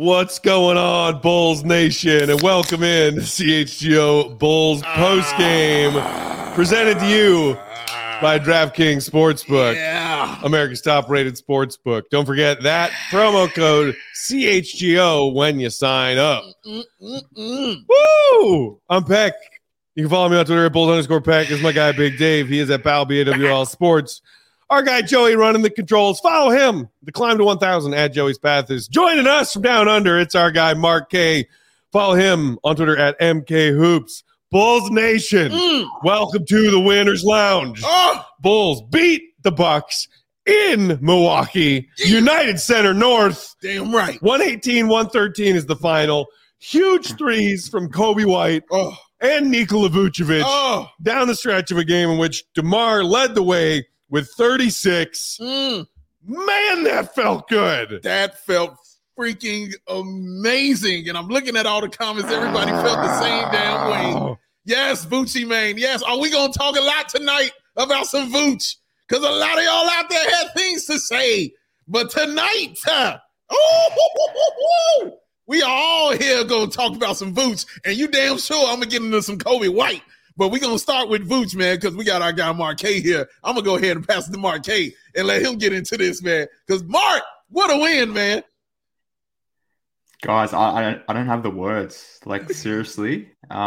What's going on, Bulls Nation? And welcome in to CHGO Bulls postgame, presented to you by DraftKings Sportsbook, America's top-rated sportsbook. Don't forget that promo code CHGO when you sign up. Woo! I'm Peck. You can follow me on Twitter at Bulls_Peck. This is my guy, Big Dave. He is at Pal BAWL Sports. Our guy, Joey, running the controls. Follow him. The Climb to 1,000 at Joey's Path is joining us from down under. It's our guy, Mark K. Follow him on Twitter at MK Hoops. Bulls Nation, welcome to the Winners Lounge. Bulls beat the Bucks in Milwaukee, United Center North. Damn right. 118-113 is the final. Huge threes from Kobe White and Nikola Vucevic down the stretch of a game in which DeMar led the way with 36. Man, that felt good. That felt freaking amazing. And I'm looking at all the comments. Everybody felt the same damn way. Yes, Vucci, man. Yes. Are we going to talk a lot tonight about some Vooch? Because a lot of y'all out there had things to say. But tonight, we are all here going to talk about some Vooch. And you damn sure I'm going to get into some Kobe White. But we're going to start with Vooch, man, because we got our guy Mark K here. I'm going to go ahead and pass it to Mark K and let him get into this, man. Because, Mark, what a win, man. Guys, I don't have the words. Like, seriously.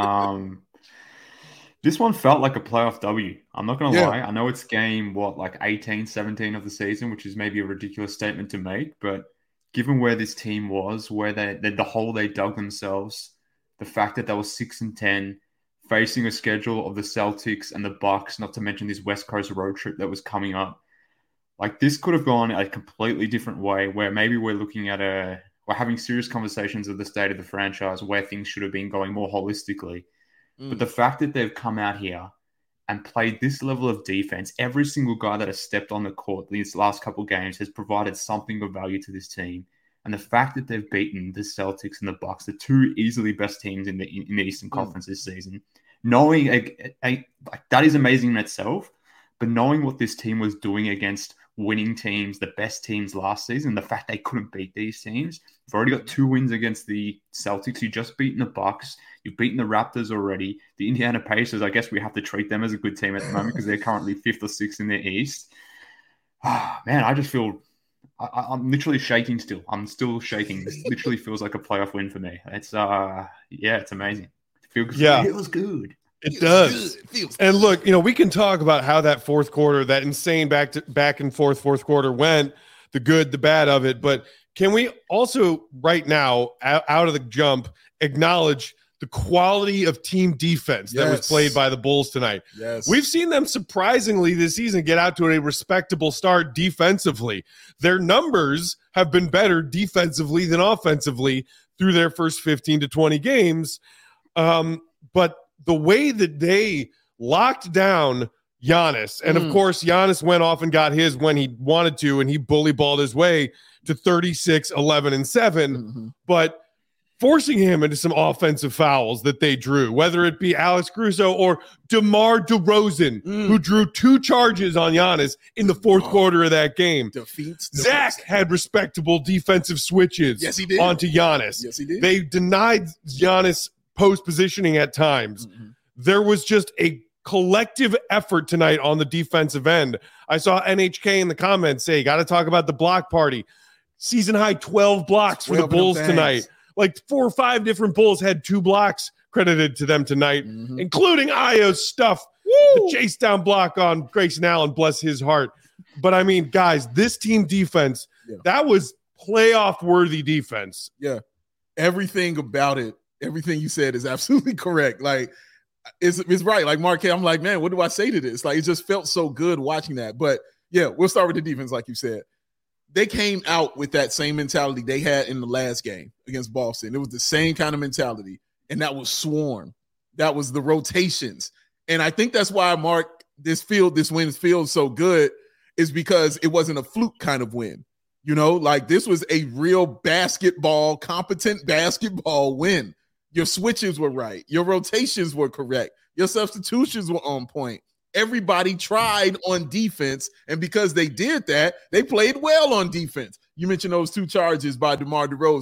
This one felt like a playoff W. I'm not going to lie. I know it's game, 18, 17 of the season, which is maybe a ridiculous statement to make. But given where this team was, where the hole they dug themselves, the fact that they were 6-10, facing a schedule of the Celtics and the Bucks, not to mention this West Coast road trip that was coming up. Like, this could have gone a completely different way, where maybe we're looking at we're having serious conversations of the state of the franchise, where things should have been going more holistically. But the fact that they've come out here and played this level of defense, every single guy that has stepped on the court these last couple of games has provided something of value to this team. And the fact that they've beaten the Celtics and the Bucks, the two easily best teams in the Eastern Conference this season, knowing that is amazing in itself. But knowing what this team was doing against winning teams, the best teams last season, the fact they couldn't beat these teams, you've already got 2 wins against the Celtics. You just beaten the Bucks. You've beaten the Raptors already. The Indiana Pacers, I guess we have to treat them as a good team at the moment because they're currently 5th or 6th in the East. Man, I just feel. I'm literally shaking still. I'm still shaking. This literally feels like a playoff win for me. It's it's amazing. It feels good. It does. And look, we can talk about how that fourth quarter, that insane back and forth fourth quarter went, the good, the bad of it. But can we also right now, out of the jump, acknowledge the quality of team defense that was played by the Bulls tonight? Yes. We've seen them surprisingly this season get out to a respectable start defensively. Their numbers have been better defensively than offensively through their first 15 to 20 games. But the way that they locked down Giannis, and of course Giannis went off and got his when he wanted to, and he bully balled his way to 36, 11, and 7. But forcing him into some offensive fouls that they drew, whether it be Alex Caruso or DeMar DeRozan, who drew 2 charges on Giannis in the fourth quarter of that game. Zach had respectable defensive switches onto Giannis. Yes, he did. They denied Giannis post positioning at times. There was just a collective effort tonight on the defensive end. I saw NHK in the comments say, got to talk about the block party. Season high 12 blocks for the Bulls tonight. Like 4 or 5 different Bulls had 2 blocks credited to them tonight, including Ayo's stuff, the chase down block on Grayson Allen, bless his heart. But I mean, guys, this team defense, that was playoff worthy defense. Yeah. Everything about it, everything you said is absolutely correct. Like, it's right. Like, Mark, I'm like, man, what do I say to this? Like, it just felt so good watching that. But yeah, we'll start with the defense, like you said. They came out with that same mentality they had in the last game against Boston. It was the same kind of mentality, and that was swarm. That was the rotations. And I think that's why, Mark, this win feels so good, is because it wasn't a fluke kind of win. Like, this was a real competent basketball win. Your switches were right. Your rotations were correct. Your substitutions were on point. Everybody tried on defense, and because they did that, they played well on defense. You mentioned those 2 charges by DeMar DeRozan.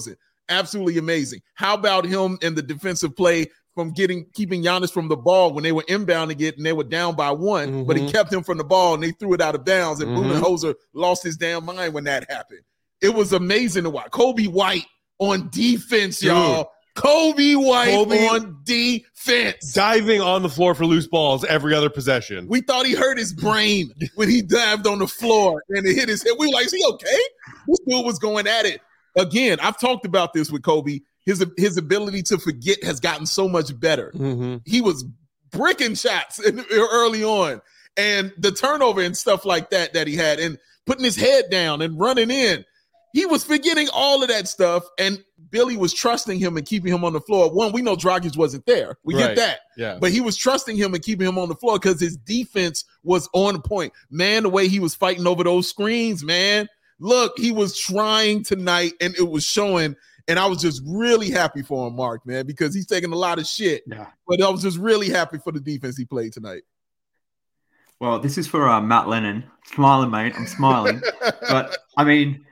Absolutely amazing. How about him in the defensive play from keeping Giannis from the ball when they were inbounding it and they were down by one, but he kept him from the ball and they threw it out of bounds, and Budenholzer lost his damn mind when that happened. It was amazing to watch. Kobe White on defense, y'all. Kobe White on defense. Diving on the floor for loose balls every other possession. We thought he hurt his brain when he dived on the floor and it hit his head. We were like, is he okay? This dude was going at it. Again, I've talked about this with Kobe. His ability to forget has gotten so much better. He was bricking shots early on. And the turnover and stuff like that he had, and putting his head down and running in, he was forgetting all of that stuff. And Billy was trusting him and keeping him on the floor. One, we know Dragic wasn't there. We get that. Yeah. But he was trusting him and keeping him on the floor because his defense was on point. Man, the way he was fighting over those screens, man. Look, he was trying tonight, and it was showing. And I was just really happy for him, Mark, man, because he's taking a lot of shit. Yeah. But I was just really happy for the defense he played tonight. Well, this is for Matt Lennon. Smiling, mate. I'm smiling. But, I mean,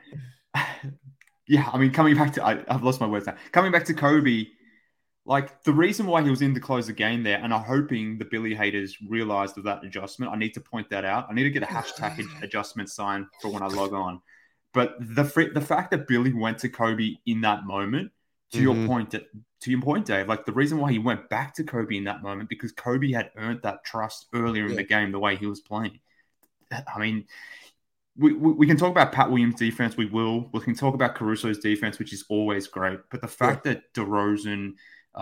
coming back to – I've lost my words now. Coming back to Kobe, like, the reason why he was in to close the game there, and I'm hoping the Billy haters realized of that adjustment. I need to point that out. I need to get a hashtag adjustment sign for when I log on. But the fact that Billy went to Kobe in that moment, to your point, Dave, like the reason why he went back to Kobe in that moment, because Kobe had earned that trust earlier in the game, the way he was playing. I mean, we can talk about Pat Williams' defense. We can talk about Caruso's defense, which is always great. But the fact that DeRozan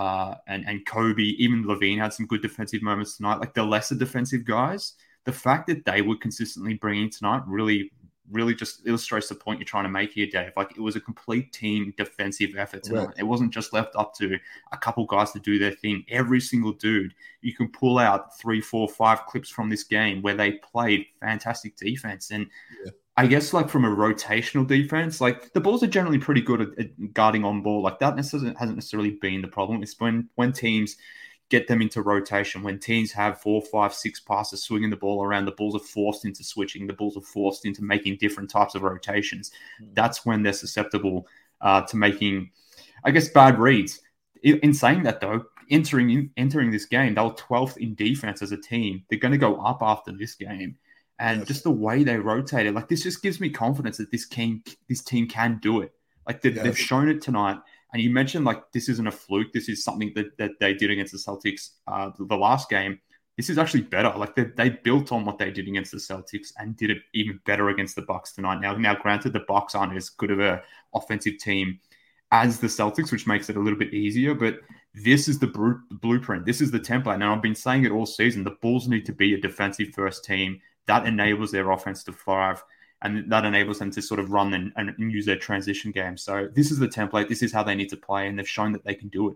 and Kobe, even Levine had some good defensive moments tonight, like the lesser defensive guys, the fact that they were consistently bringing tonight really just illustrates the point you're trying to make here, Dave. Like, it was a complete team defensive effort tonight. Right. It wasn't just left up to a couple guys to do their thing. Every single dude, you can pull out 3, 4, 5 clips from this game where they played fantastic defense. And I guess, like, from a rotational defense, like, the Bulls are generally pretty good at guarding on ball. Like, that hasn't necessarily been the problem. It's when teams get them into rotation. When teams have 4, 5, 6 passes swinging the ball around, the Bulls are forced into switching. The Bulls are forced into making different types of rotations. That's when they're susceptible to making, I guess, bad reads. In saying that, though, entering this game, they were 12th in defense as a team. They're going to go up after this game. And just the way they rotated, like, this just gives me confidence that this team can do it. Like, they've shown it tonight. And you mentioned, like, this isn't a fluke. This is something that they did against the Celtics the last game. This is actually better. Like, they built on what they did against the Celtics and did it even better against the Bucks tonight. Now, granted, the Bucks aren't as good of an offensive team as the Celtics, which makes it a little bit easier. But this is the blueprint. This is the template. Now, I've been saying it all season. The Bulls need to be a defensive-first team. That enables their offense to thrive. And that enables them to sort of run and use their transition game. So this is the template. This is how they need to play, and they've shown that they can do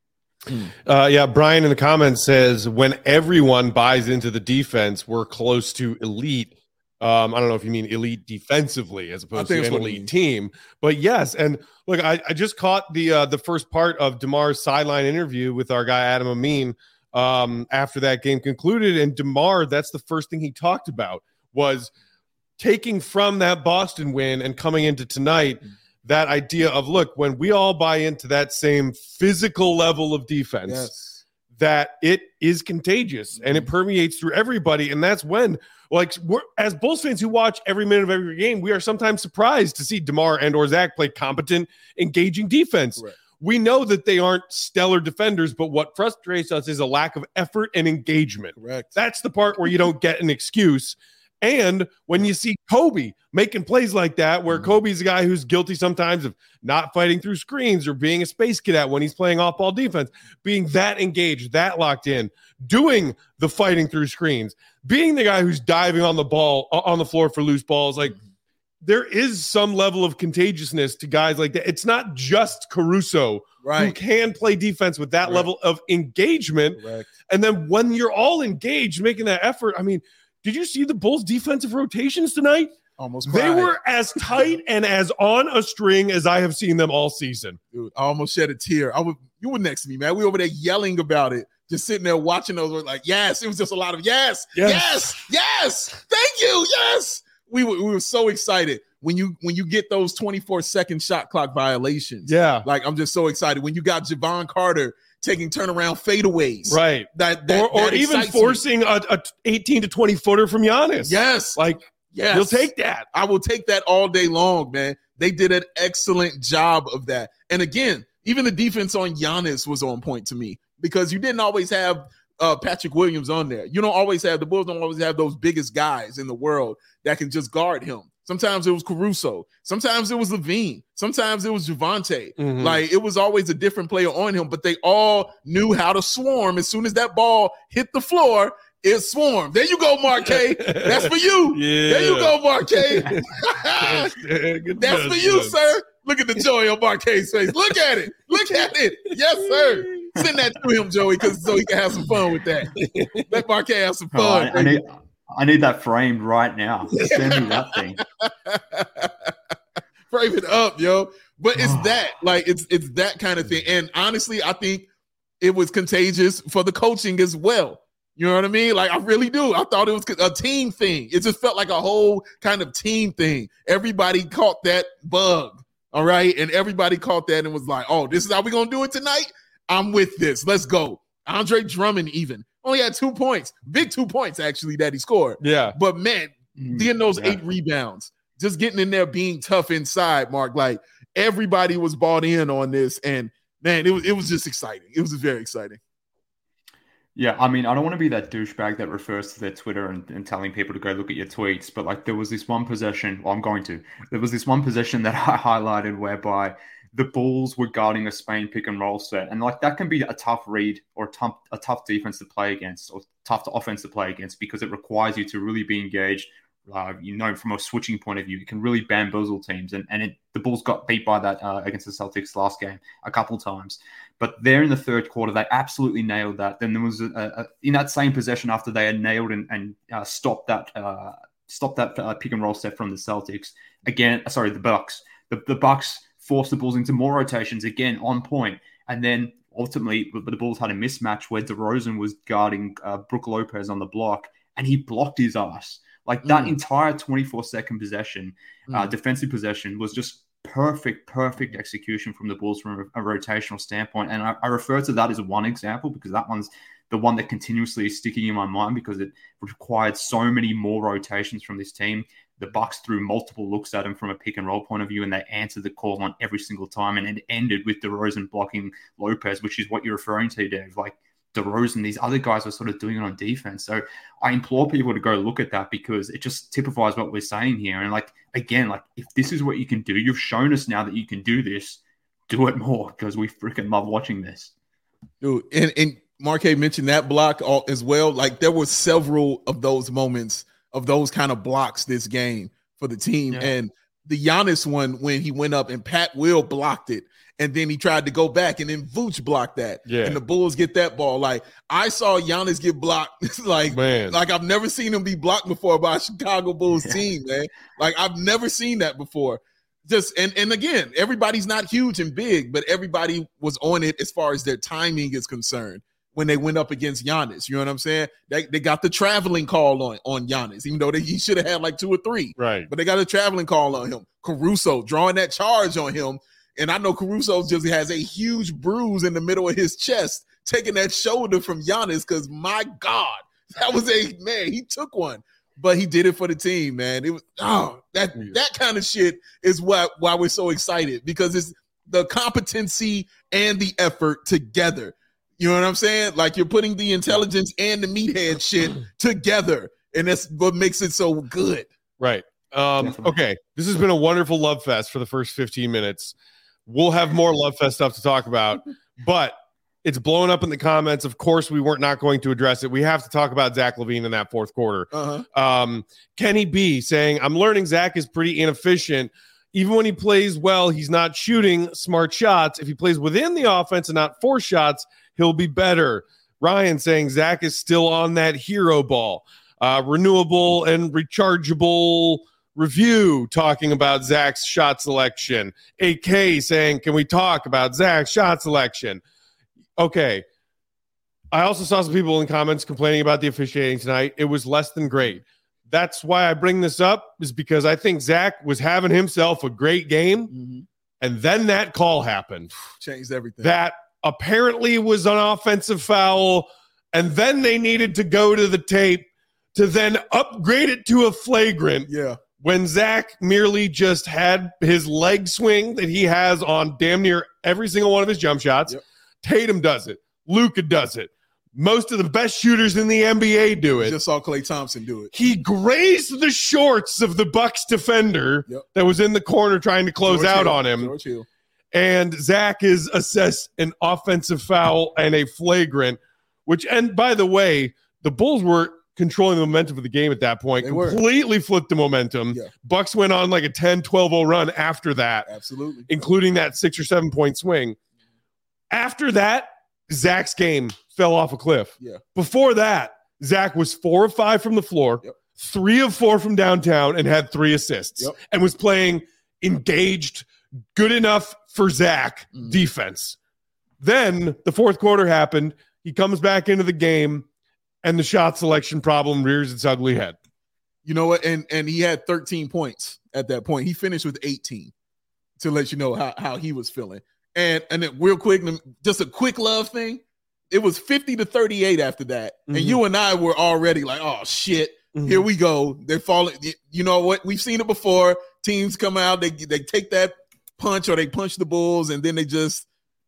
it. Brian in the comments says, when everyone buys into the defense, we're close to elite. I don't know if you mean elite defensively as opposed to an elite team. But yes, and look, I just caught the first part of DeMar's sideline interview with our guy Adam Amin after that game concluded. And DeMar, that's the first thing he talked about was taking from that Boston win and coming into tonight, that idea of, look, when we all buy into that same physical level of defense, that it is contagious and it permeates through everybody. And that's when, like, we're, as Bulls fans who watch every minute of every game, we are sometimes surprised to see DeMar and or Zach play competent, engaging defense. Right. We know that they aren't stellar defenders, but what frustrates us is a lack of effort and engagement. Correct. That's the part where you don't get an excuse. And when you see Kobe making plays like that, where Kobe's a guy who's guilty sometimes of not fighting through screens or being a space cadet when he's playing off-ball defense, being that engaged, that locked in, doing the fighting through screens, being the guy who's diving on the ball, on the floor for loose balls, like there is some level of contagiousness to guys like that. It's not just Caruso who can play defense with that level of engagement. Correct. And then when you're all engaged, making that effort, I mean, did you see the Bulls' defensive rotations tonight? Almost cried. They were as tight and as on a string as I have seen them all season. Dude, I almost shed a tear. You were next to me, man. We were over there yelling about it, just sitting there watching those. We're like, yes. It was just a lot of yes. Thank you, yes. we were so excited when you get those 24-second shot clock violations. Yeah. Like, I'm just so excited when you got Javon Carter taking turnaround fadeaways. Right. Or even forcing a 18 to 20 footer from Giannis. Yes. Like, yes. You'll take that. I will take that all day long, man. They did an excellent job of that. And again, even the defense on Giannis was on point to me because you didn't always have Patrick Williams on there. The Bulls don't always have those biggest guys in the world that can just guard him. Sometimes it was Caruso. Sometimes it was Levine. Sometimes it was Javonte. Mm-hmm. Like, it was always a different player on him, but they all knew how to swarm. As soon as that ball hit the floor, it swarmed. There you go, Marquez. That's for you. Yeah. There you go, Marquez. That's for you, sir. Look at the joy on Marquez's face. Look at it. Look at it. Yes, sir. Send that to him, Joey, so he can have some fun with that. Let Marquez have some fun. I need that framed right now. Send me that thing. Frame it up, yo. But it's that. Like, it's that kind of thing. And honestly, I think it was contagious for the coaching as well. You know what I mean? Like, I really do. I thought it was a team thing. It just felt like a whole kind of team thing. Everybody caught that bug, all right? And everybody caught that and was like, oh, this is how we're going to do it tonight? I'm with this. Let's go. Andre Drummond even only had 2 points. Big 2 points, actually, that he scored. Yeah. But, man, getting those 8 rebounds, just getting in there, being tough inside, Mark. Like, everybody was bought in on this. And, man, it was just exciting. It was very exciting. Yeah, I mean, I don't want to be that douchebag that refers to their Twitter and telling people to go look at your tweets, but like there was this one possession, there was this one possession that I highlighted whereby the Bulls were guarding a Spain pick and roll set. And like that can be a tough read or a tough defense to play against or tough offense to play against because it requires you to really be engaged. From a switching point of view, it can really bamboozle teams. And the Bulls got beat by that against the Celtics last game a couple times. But there in the third quarter, they absolutely nailed that. Then there was in that same possession after they had nailed and stopped that pick and roll set from the Celtics. The Bucks. The Bucks forced the Bulls into more rotations, again, on point. And then ultimately, the Bulls had a mismatch where DeRozan was guarding Brook Lopez on the block, and he blocked his ass. Like that entire 24-second possession, defensive possession was just perfect execution from the Bulls from a rotational standpoint. And I refer to that as one example because that one's the one that continuously is sticking in my mind because it required so many more rotations from this team. The Bucks threw multiple looks at him from a pick and roll point of view, and they answered the call on every single time. And it ended with DeRozan blocking Lopez, which is what you're referring to, Dave. Like DeRozan, these other guys were sort of doing it on defense. So I implore people to go look at that because it just typifies what we're saying here. And like, again, like if this is what you can do, you've shown us now that you can do this, do it more because we freaking love watching this. Dude, and Marquez mentioned that block as well. Like there were several of those moments of those kind of blocks this game for the team. Yeah. And the Giannis one, when he went up and Pat Will blocked it, and then he tried to go back, and then Vooch blocked that. Yeah. And the Bulls get that ball. Like, I saw Giannis get blocked. like I've never seen him be blocked before by a Chicago Bulls team, man. Like, I've never seen that before. Just and again, everybody's not huge and big, but everybody was on it as far as their timing is concerned when they went up against Giannis. You know what I'm saying? They got the traveling call on Giannis, even though he should have had like 2 or 3. Right. But they got a traveling call on him. Caruso drawing that charge on him. And I know Caruso just has a huge bruise in the middle of his chest, taking that shoulder from Giannis because, my God, that was he took one. But he did it for the team, man. It was that kind of shit is why we're so excited because it's the competency and the effort together. You know what I'm saying? Like you're putting the intelligence and the meathead shit together, and that's what makes it so good. Right. Okay. This has been a wonderful love fest for the first 15 minutes. We'll have more love fest stuff to talk about, but it's blowing up in the comments. Of course, we weren't not going to address it. We have to talk about Zach LaVine in that fourth quarter. Kenny B saying, I'm learning Zach is pretty inefficient. Even when he plays well, he's not shooting smart shots. If he plays within the offense and not force shots, he'll be better. Ryan saying Zach is still on that hero ball. Renewable and rechargeable review talking about Zach's shot selection. AK saying, can we talk about Zach's shot selection? Okay. I also saw some people in comments complaining about the officiating tonight. It was less than great. that's why I bring this up, is because I think Zach was having himself a great game. And then that call happened. Changed everything. That apparently was an offensive foul. And then they needed to go to the tape to then upgrade it to a flagrant. Yeah. When Zach merely just had his leg swing that he has on damn near every single one of his jump shots. Yep. Tatum does it. Luka does it. Most of the best shooters in the NBA do it. Just saw Klay Thompson do it. He grazed the shorts of the Bucks defender that was in the corner trying to close out on him. George Hill. And Zach is assessed an offensive foul and a flagrant, which, and by the way, the Bulls were controlling the momentum of the game at that point. Completely flipped the momentum. Yeah. Bucks went on like a 10-12-0 run after that. Absolutely. Including that 6 or 7 point swing. After that, Zach's game fell off a cliff. Yeah. Before that, Zach was 4 of 5 from the floor, 3 of 4 from downtown, and had 3 assists, and was playing engaged, good enough for Zach defense. Then the fourth quarter happened. He comes back into the game, and the shot selection problem rears its ugly head. You know what? And he had 13 points at that point. He finished with 18 to let you know how he was feeling. And then real quick, just a quick love thing. It was 50-38 after that. And you and I were already like, oh, shit, here we go. They're falling. You know what? We've seen it before. Teams come out, they take that punch or they punch the Bulls, and then they just,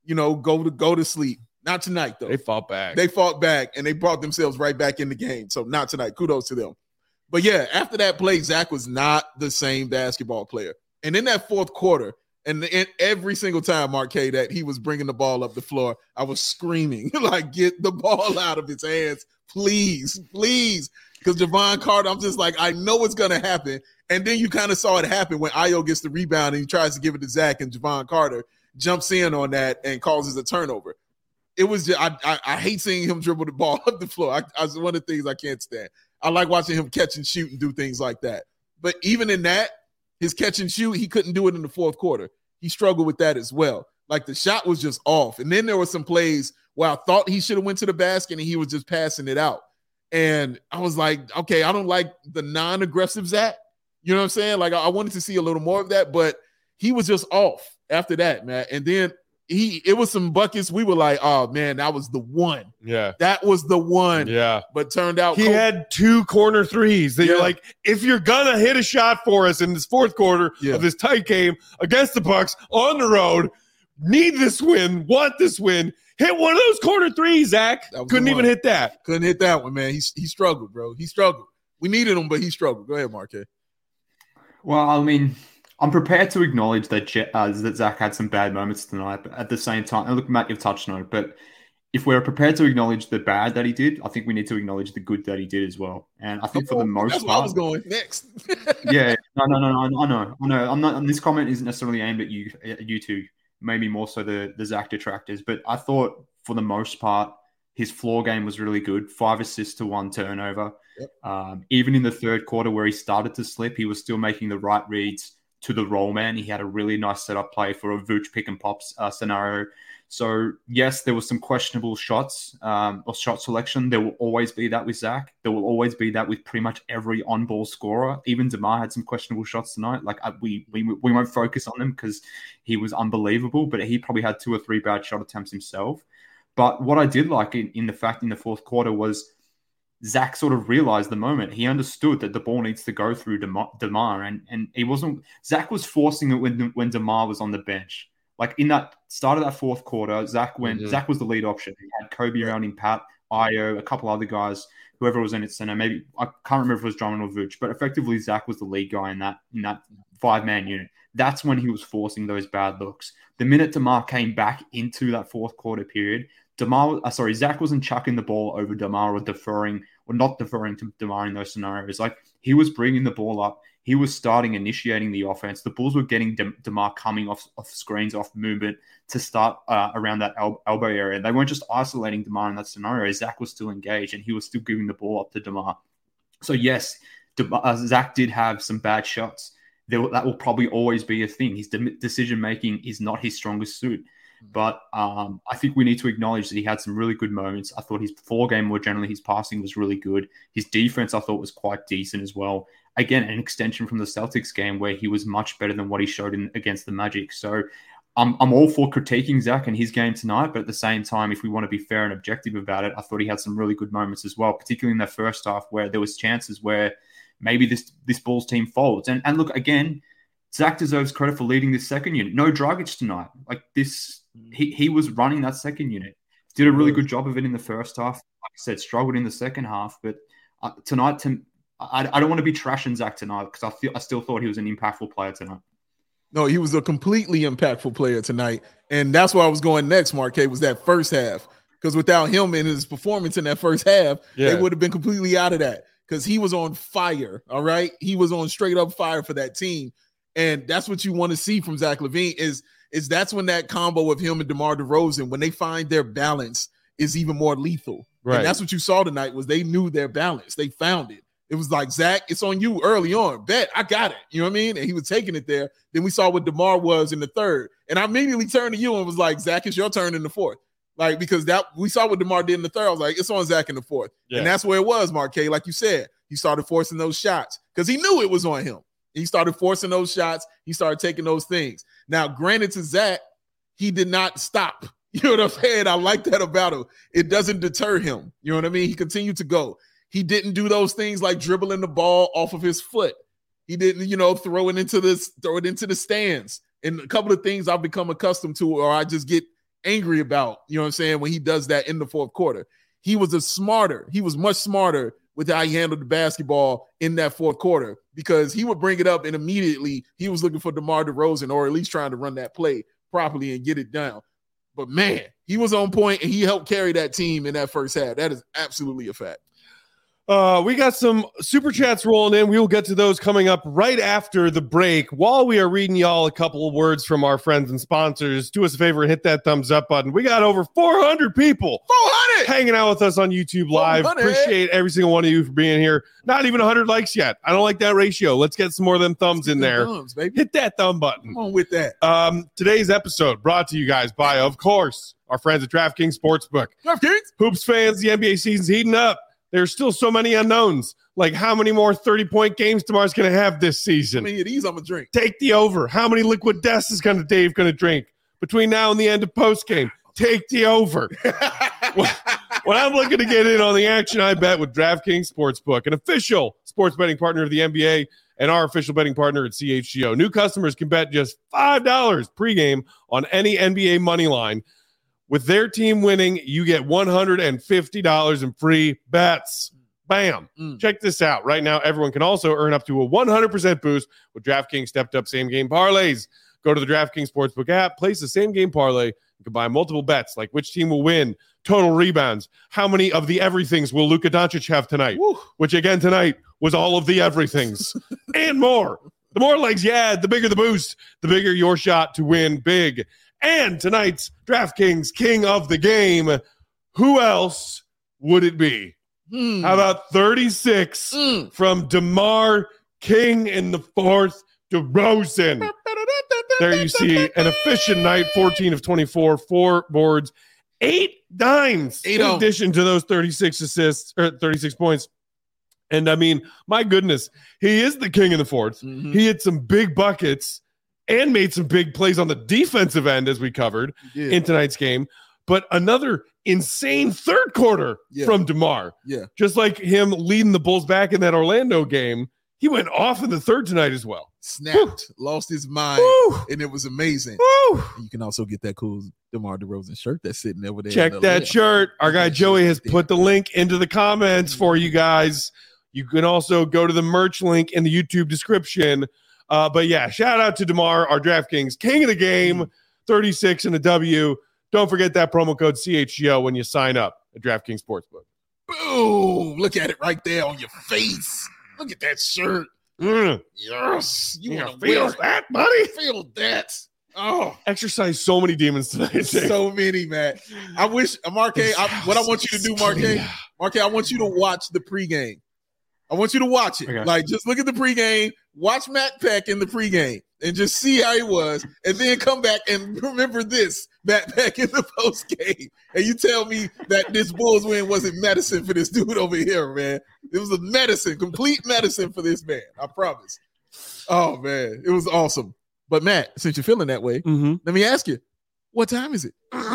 go to sleep. Not tonight, though. They fought back. They fought back, and they brought themselves right back in the game. So not tonight. Kudos to them. But, yeah, after that play, Zach was not the same basketball player. And in that fourth quarter, and every single time, Mark K, that he was bringing the ball up the floor, I was screaming, like, get the ball out of his hands, please, please. Because Jevon Carter, I'm just like, I know it's going to happen. And then you kind of saw it happen when Ayo gets the rebound and he tries to give it to Zach, and Jevon Carter jumps in on that and causes a turnover. It was just, I hate seeing him dribble the ball up the floor. It's one of the things I can't stand. I like watching him catch and shoot and do things like that. But even in that, his catch and shoot, he couldn't do it in the fourth quarter. He struggled with that as well. Like, the shot was just off. And then there were some plays where I thought he should have went to the basket and he was just passing it out. And I was like, okay, I don't like the non-aggressive Zach. You know what I'm saying? Like, I wanted to see a little more of that, but he was just off after that, man. And then it was some buckets. We were like, oh, man, that was the one. Yeah. That was the one. Yeah. But turned out he had 2 corner threes that you're like, if you're going to hit a shot for us in this fourth quarter of this tight game against the Bucks on the road, need this win, want this win, hit one of those corner threes, Zach. Couldn't even hit that. Couldn't hit that one, man. He struggled, bro. He struggled. We needed him, but he struggled. Go ahead, Marquez. Well, I mean, I'm prepared to acknowledge that Zach had some bad moments tonight, but at the same time, and look, Matt, you've touched on it, but if we're prepared to acknowledge the bad that he did, I think we need to acknowledge the good that he did as well. And I think for the most part, that's where I was going next. Yeah, no, I know. I'm not. And this comment isn't necessarily aimed at you two, maybe more so the Zach detractors. But I thought for the most part, his floor game was really good. 5 assists to 1 turnover. Yep. Even in the third quarter where he started to slip, he was still making the right reads to the roll man. He had a really nice setup play for a Vooch pick and pops scenario. So yes, there was some questionable shots or shot selection. There will always be that with Zach. There will always be that with pretty much every on-ball scorer. Even DeMar had some questionable shots tonight. Like we won't focus on them because he was unbelievable, but he probably had 2 or 3 bad shot attempts himself. But what I did like in the fourth quarter was Zach sort of realized the moment. He understood that the ball needs to go through DeMar, and he wasn't. Zach was forcing it when DeMar was on the bench. Like in that start of that fourth quarter, Zach was the lead option. He had Kobe around him, Pat, Ayo, a couple other guys, whoever was in its center. Maybe I can't remember if it was Drummond or Vooch, but effectively Zach was the lead guy in that 5-man unit. That's when he was forcing those bad looks. The minute DeMar came back into that fourth quarter period, Zach wasn't chucking the ball over DeMar or not deferring to DeMar in those scenarios. Like, he was bringing the ball up. He was initiating the offense. The Bulls were getting DeMar coming off screens, off movement to start around that elbow area. They weren't just isolating DeMar in that scenario. Zach was still engaged, and he was still giving the ball up to DeMar. So, yes, Zach did have some bad shots. That will probably always be a thing. His decision-making is not his strongest suit. But I think we need to acknowledge that he had some really good moments. I thought his before game, more generally, his passing was really good. His defense, I thought, was quite decent as well. Again, an extension from the Celtics game where he was much better than what he showed against the Magic. So I'm all for critiquing Zach and his game tonight, but at the same time, if we want to be fair and objective about it, I thought he had some really good moments as well, particularly in the first half where there was chances where maybe this Bulls team folds. And look, again, Zach deserves credit for leading this second unit. No Dragic tonight. Like this, he was running that second unit. Did a really good job of it in the first half. Like I said, struggled in the second half. But tonight, I don't want to be trashing Zach tonight because I still thought he was an impactful player tonight. No, he was a completely impactful player tonight. And that's where I was going next, Marquez, was that first half. Because without him and his performance in that first half, they would have been completely out of that. Because he was on fire, all right? He was on straight up fire for that team. And that's what you want to see from Zach LaVine is that's when that combo of him and DeMar DeRozan, when they find their balance, is even more lethal. Right. And that's what you saw tonight was they knew their balance. They found it. It was like, Zach, it's on you early on. Bet, I got it. You know what I mean? And he was taking it there. Then we saw what DeMar was in the third. And I immediately turned to you and was like, Zach, it's your turn in the fourth. Like, because that we saw what DeMar did in the third. I was like, it's on Zach in the fourth. Yeah. And that's where it was, Marquez. Like you said, he started forcing those shots because he knew it was on him. He started forcing those shots. He started taking those things. Now, granted to Zach, he did not stop. You know what I'm saying? I like that about him. It doesn't deter him. You know what I mean? He continued to go. He didn't do those things like dribbling the ball off of his foot. He didn't, throw it into the stands. And a couple of things I've become accustomed to or I just get angry about, you know what I'm saying, when he does that in the fourth quarter. He was much smarter with how he handled the basketball in that fourth quarter because he would bring it up and immediately he was looking for DeMar DeRozan or at least trying to run that play properly and get it down. But, man, he was on point and he helped carry that team in that first half. That is absolutely a fact. We got some super chats rolling in. We will get to those coming up right after the break. While we are reading y'all a couple of words from our friends and sponsors, do us a favor and hit that thumbs up button. We got over 400 people 400 hanging out with us on YouTube Live. 400. Appreciate every single one of you for being here. Not even 100 likes yet. I don't like that ratio. Let's get some more of them thumbs in there. Thumbs, baby. Hit that thumb button. Come on with that. Today's episode brought to you guys by, of course, our friends at DraftKings Sportsbook. DraftKings. Hoops fans, the NBA season's heating up. There's still so many unknowns. Like how many more 30-point games DeMar's going to have this season? How many of these I'm going to drink? Take the over. How many liquid deaths is Dave going to drink between now and the end of postgame? Take the over. When I'm looking to get in on the action, I bet with DraftKings Sportsbook, an official sports betting partner of the NBA and our official betting partner at CHGO. New customers can bet just $5 pregame on any NBA money line. With their team winning, you get $150 in free bets. Bam. Check this out. Right now, everyone can also earn up to a 100% boost with DraftKings stepped-up same-game parlays. Go to the DraftKings Sportsbook app, place the same-game parlay, and combine multiple bets like which team will win, total rebounds, how many of the everythings will Luka Doncic have tonight, which again tonight was all of the everythings, and more. The more legs you add, the bigger the boost, the bigger your shot to win big. And tonight's DraftKings King of the Game, who else would it be? How about 36 from DeMar King in the fourth, DeRozan. There you see an efficient night, 14 of 24, 4 boards, 8 dimes in addition to those 36 assists or 36 points. And I mean, my goodness, he is the king in the fourth. He hit some big buckets and made some big plays on the defensive end, as we covered in tonight's game. But another insane third quarter from DeMar. Yeah. Just like him leading the Bulls back in that Orlando game, he went off in the third tonight as well. Snapped, lost his mind, and it was amazing. You can also get that cool DeMar DeRozan shirt that's sitting over there. Check that shirt. Our guy Joey has put the link into the comments for you guys. You can also go to the merch link in the YouTube description. But yeah, shout out to DeMar, our DraftKings King of the Game, 36 and a W. Don't forget that promo code CHGO when you sign up at DraftKings Sportsbook. Boom! Look at it right there on your face. Look at that shirt. Yes. You want to feel that, buddy? Feel that. Oh, exercise so many demons tonight. So many, man. I wish, Marquez, what I want you to do, Marquez, I want you to watch the pregame. I want you to watch it. Okay. Like, just look at the pregame, watch Matt Peck in the pregame, and just see how he was, and then come back and remember this back in the post game, and you tell me that this Bulls win wasn't medicine for this dude over here, man. It was a medicine, complete medicine for this man. I promise. Oh man, it was awesome. But Matt, since you're feeling that way, let me ask you, what time is it?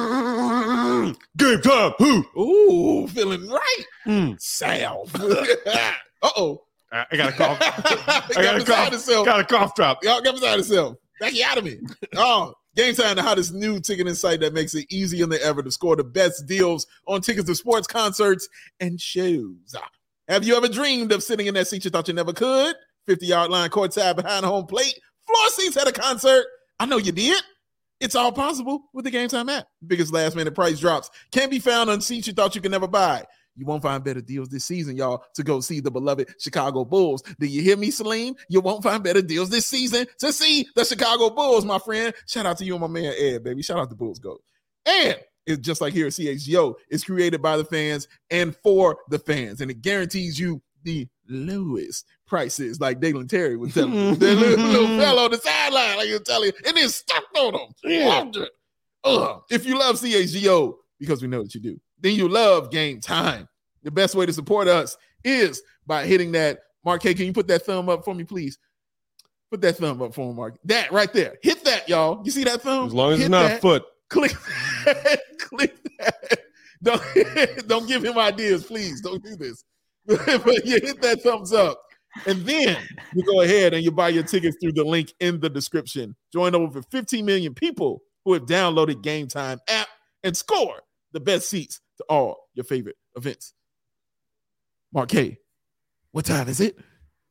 Game time. Who? Ooh, feeling right. South. Uh-oh. I got a cough. I got a cough drop. Y'all got beside himself. Back you out of me. Oh, Game Time, the hottest new ticketing site that makes it easier than ever to score the best deals on tickets to sports, concerts, and shows. Have you ever dreamed of sitting in that seat you thought you never could? 50-yard line courtside behind home plate, floor seats at a concert. I know you did. It's all possible with the Game Time app. Biggest last-minute price drops can be found on seats you thought you could never buy. You won't find better deals this season, y'all, to go see the beloved Chicago Bulls. Do you hear me, Salim? You won't find better deals this season to see the Chicago Bulls, my friend. Shout out to you and my man, Ed, baby. Shout out to Bulls Go. And it's just like here at CHGO. It's created by the fans and for the fans, and it guarantees you the lowest prices, like Dalen Terry was telling you. That little fellow on the sideline, like you're telling you, and then stepped on him. Yeah. If you love CHGO, because we know that you do, then you love Game Time. The best way to support us is by hitting that. Mark K, can you put that thumb up for me, please? Put that thumb up for me, Mark. That right there. Hit that, y'all. You see that thumb? As long as it's not a foot. Click that. Click that. Don't give him ideas, please. Don't do this. But you hit that thumbs up. And then you go ahead and you buy your tickets through the link in the description. Join over 15 million people who have downloaded Game Time app and score the best seats to all your favorite events. Mark K, what time is it?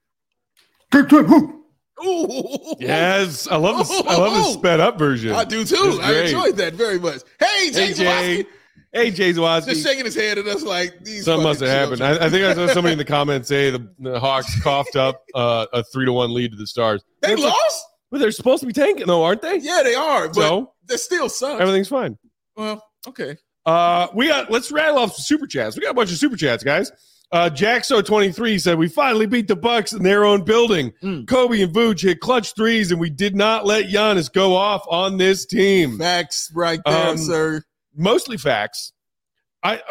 Ooh. Yes, I love this. I love this sped up version. I do too. I enjoyed that very much. Hey, Jay. Hey, Jay Zawaski. Just shaking his head at us like these. Something must have happened. I think I saw somebody in the comments say the Hawks coughed up a 3-1 lead to the Stars. They lost? Well, they're supposed to be tanking, though, aren't they? Yeah, they are. But so they still suck. Everything's fine. Well, okay. Let's rattle off some super chats. We got a bunch of super chats, guys. Jaxo23 said, we finally beat the Bucks in their own building. Kobe and Vooch hit clutch threes, and we did not let Giannis go off on this team. Facts right there, sir. Mostly facts. I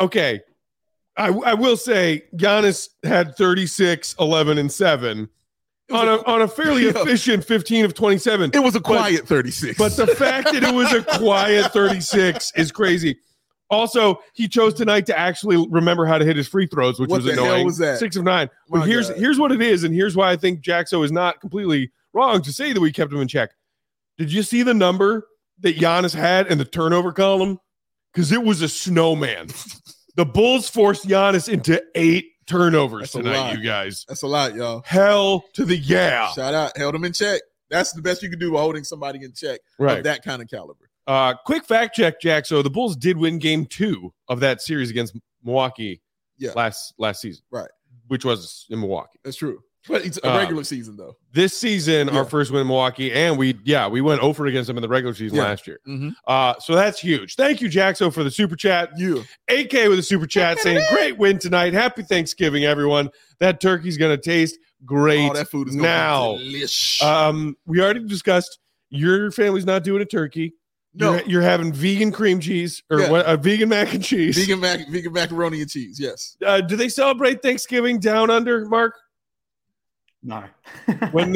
will say Giannis had 36, 11, and 7 on a fairly efficient 15 of 27. It was a quiet 36. But the fact that it was a quiet 36 is crazy. Also, he chose tonight to actually remember how to hit his free throws, which was annoying. What the hell was that? 6 of 9. But here's what it is, and here's why I think Jaxo is not completely wrong to say that we kept him in check. Did you see the number that Giannis had in the turnover column? Because it was a snowman. The Bulls forced Giannis into 8 turnovers tonight, you guys. That's a lot, y'all. Hell to the yeah. Shout out. Held him in check. That's the best you can do by holding somebody in check of that kind of caliber. Quick fact check, Jack. So the Bulls did win game 2 of that series against Milwaukee last season. Right. Which was in Milwaukee. That's true. But it's a regular season, though. This season, our first win in Milwaukee, and we went over against them in the regular season last year. So that's huge. Thank you, Jaxo, for the super chat. AK with a super chat saying, great win tonight. Happy Thanksgiving, everyone. That turkey's going to taste great. Oh, that food is now. Delicious. We already discussed your family's not doing a turkey. No. You're having vegan cream cheese or vegan mac and cheese. Vegan macaroni and cheese, yes. Do they celebrate Thanksgiving down under, Mark? No. When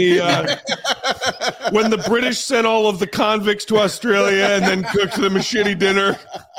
the British sent all of the convicts to Australia and then cooked them a shitty dinner.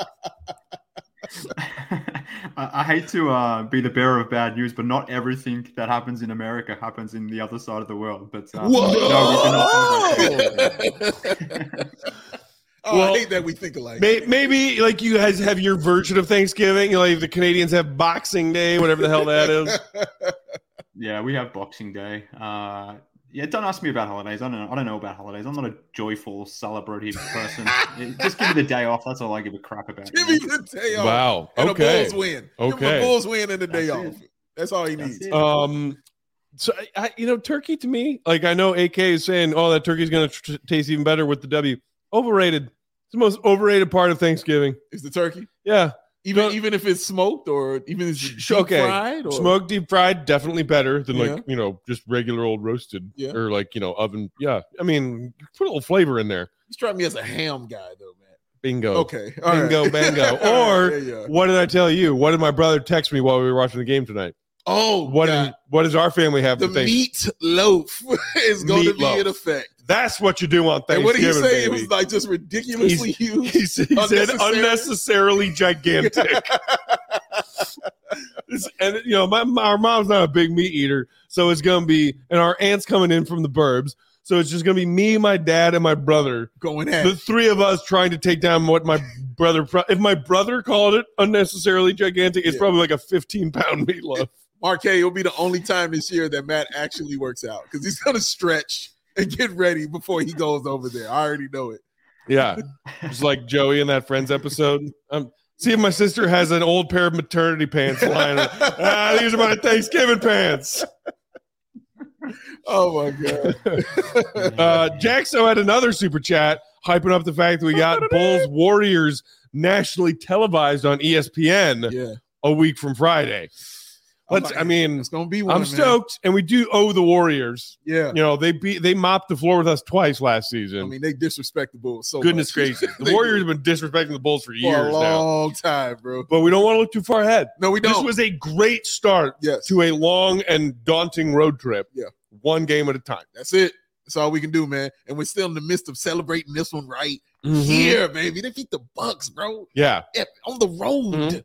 I hate to be the bearer of bad news, but not everything that happens in America happens in the other side of the world. But no, we cannot. I hate that we think alike. Maybe like you guys have your version of Thanksgiving. Like the Canadians have Boxing Day, whatever the hell that is. Yeah, we have Boxing Day. Don't ask me about holidays. I don't know about holidays. I'm not a joyful, celebrative person. Just give me the day off. That's all I give a crap about. Give me the day off. Wow. And okay. the Bulls win. Okay. Give the Bulls win and the day off. That's all he needs. So turkey to me, like I know AK is saying, oh, that turkey's going to taste even better with the W. Overrated. It's the most overrated part of Thanksgiving. Is the turkey? Yeah. Even if it's smoked or even if it's deep fried? Or? Smoked, deep fried, definitely better than just regular old roasted or oven. Yeah. I mean, put a little flavor in there. You strike me as a ham guy, though, man. Bingo. Okay. All Bingo, right. bango. Or what did I tell you? What did my brother text me while we were watching the game tonight? Oh, what does our family have the for Thanksgiving? meatloaf is going to be in effect. That's what you do on Thanksgiving. And what did he say? Baby. It was like just ridiculously huge. He said unnecessarily gigantic. And you know, our mom's not a big meat eater, so it's gonna be, and our aunt's coming in from the burbs, so it's just gonna be me, my dad, and my brother going at the three of us trying to take down what my brother. If my brother called it unnecessarily gigantic, it's probably like a 15-pound meatloaf. Marquez, it'll be the only time this year that Matt actually works out because he's gonna stretch and get ready before he goes over there. I already know it. Yeah, just like Joey in that Friends episode. See if my sister has an old pair of maternity pants lying. These are my Thanksgiving pants. Oh my God. Jaxo had another super chat hyping up the fact that we got Bulls Warriors nationally televised on ESPN a week from Friday. It's gonna be one. I'm stoked, and we do owe the Warriors. Yeah, you know they mopped the floor with us twice last season. I mean, they disrespect the Bulls so goodness much. gracious. The Warriors have been disrespecting the Bulls for years for a long time, bro. But we don't want to look too far ahead. No, we don't. This was a great start to a long and daunting road trip. Yeah, one game at a time. That's it. That's all we can do, man. And we're still in the midst of celebrating this one right here, baby. They beat the Bucks, bro. Yeah. On the road.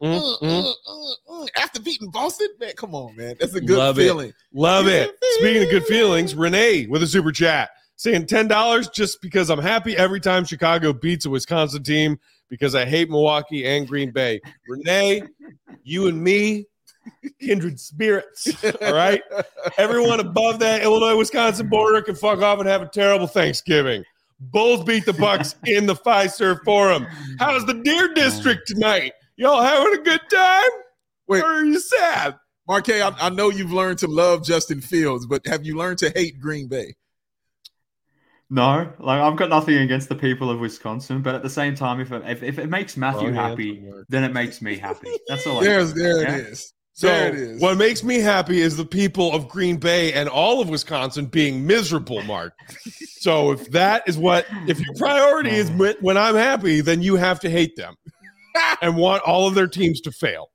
After beating Boston, man, come on, man. That's a good feeling. Love it. Speaking of good feelings, Renee with a super chat saying $10 just because I'm happy every time Chicago beats a Wisconsin team because I hate Milwaukee and Green Bay. Renee, you and me, kindred spirits. All right. Everyone above that Illinois-Wisconsin border can fuck off and have a terrible Thanksgiving. Bulls beat the Bucks in the Fiserv Forum. How's the Deer District tonight? Y'all having a good time? Wait, or are you sad? Marquez, I know you've learned to love Justin Fields, but have you learned to hate Green Bay? No, like I've got nothing against the people of Wisconsin, but at the same time, if it makes Matthew happy, then it makes me happy. That's all. There it is. So there it is. What makes me happy is the people of Green Bay and all of Wisconsin being miserable, Mark. So if your priority is when I'm happy, then you have to hate them and want all of their teams to fail.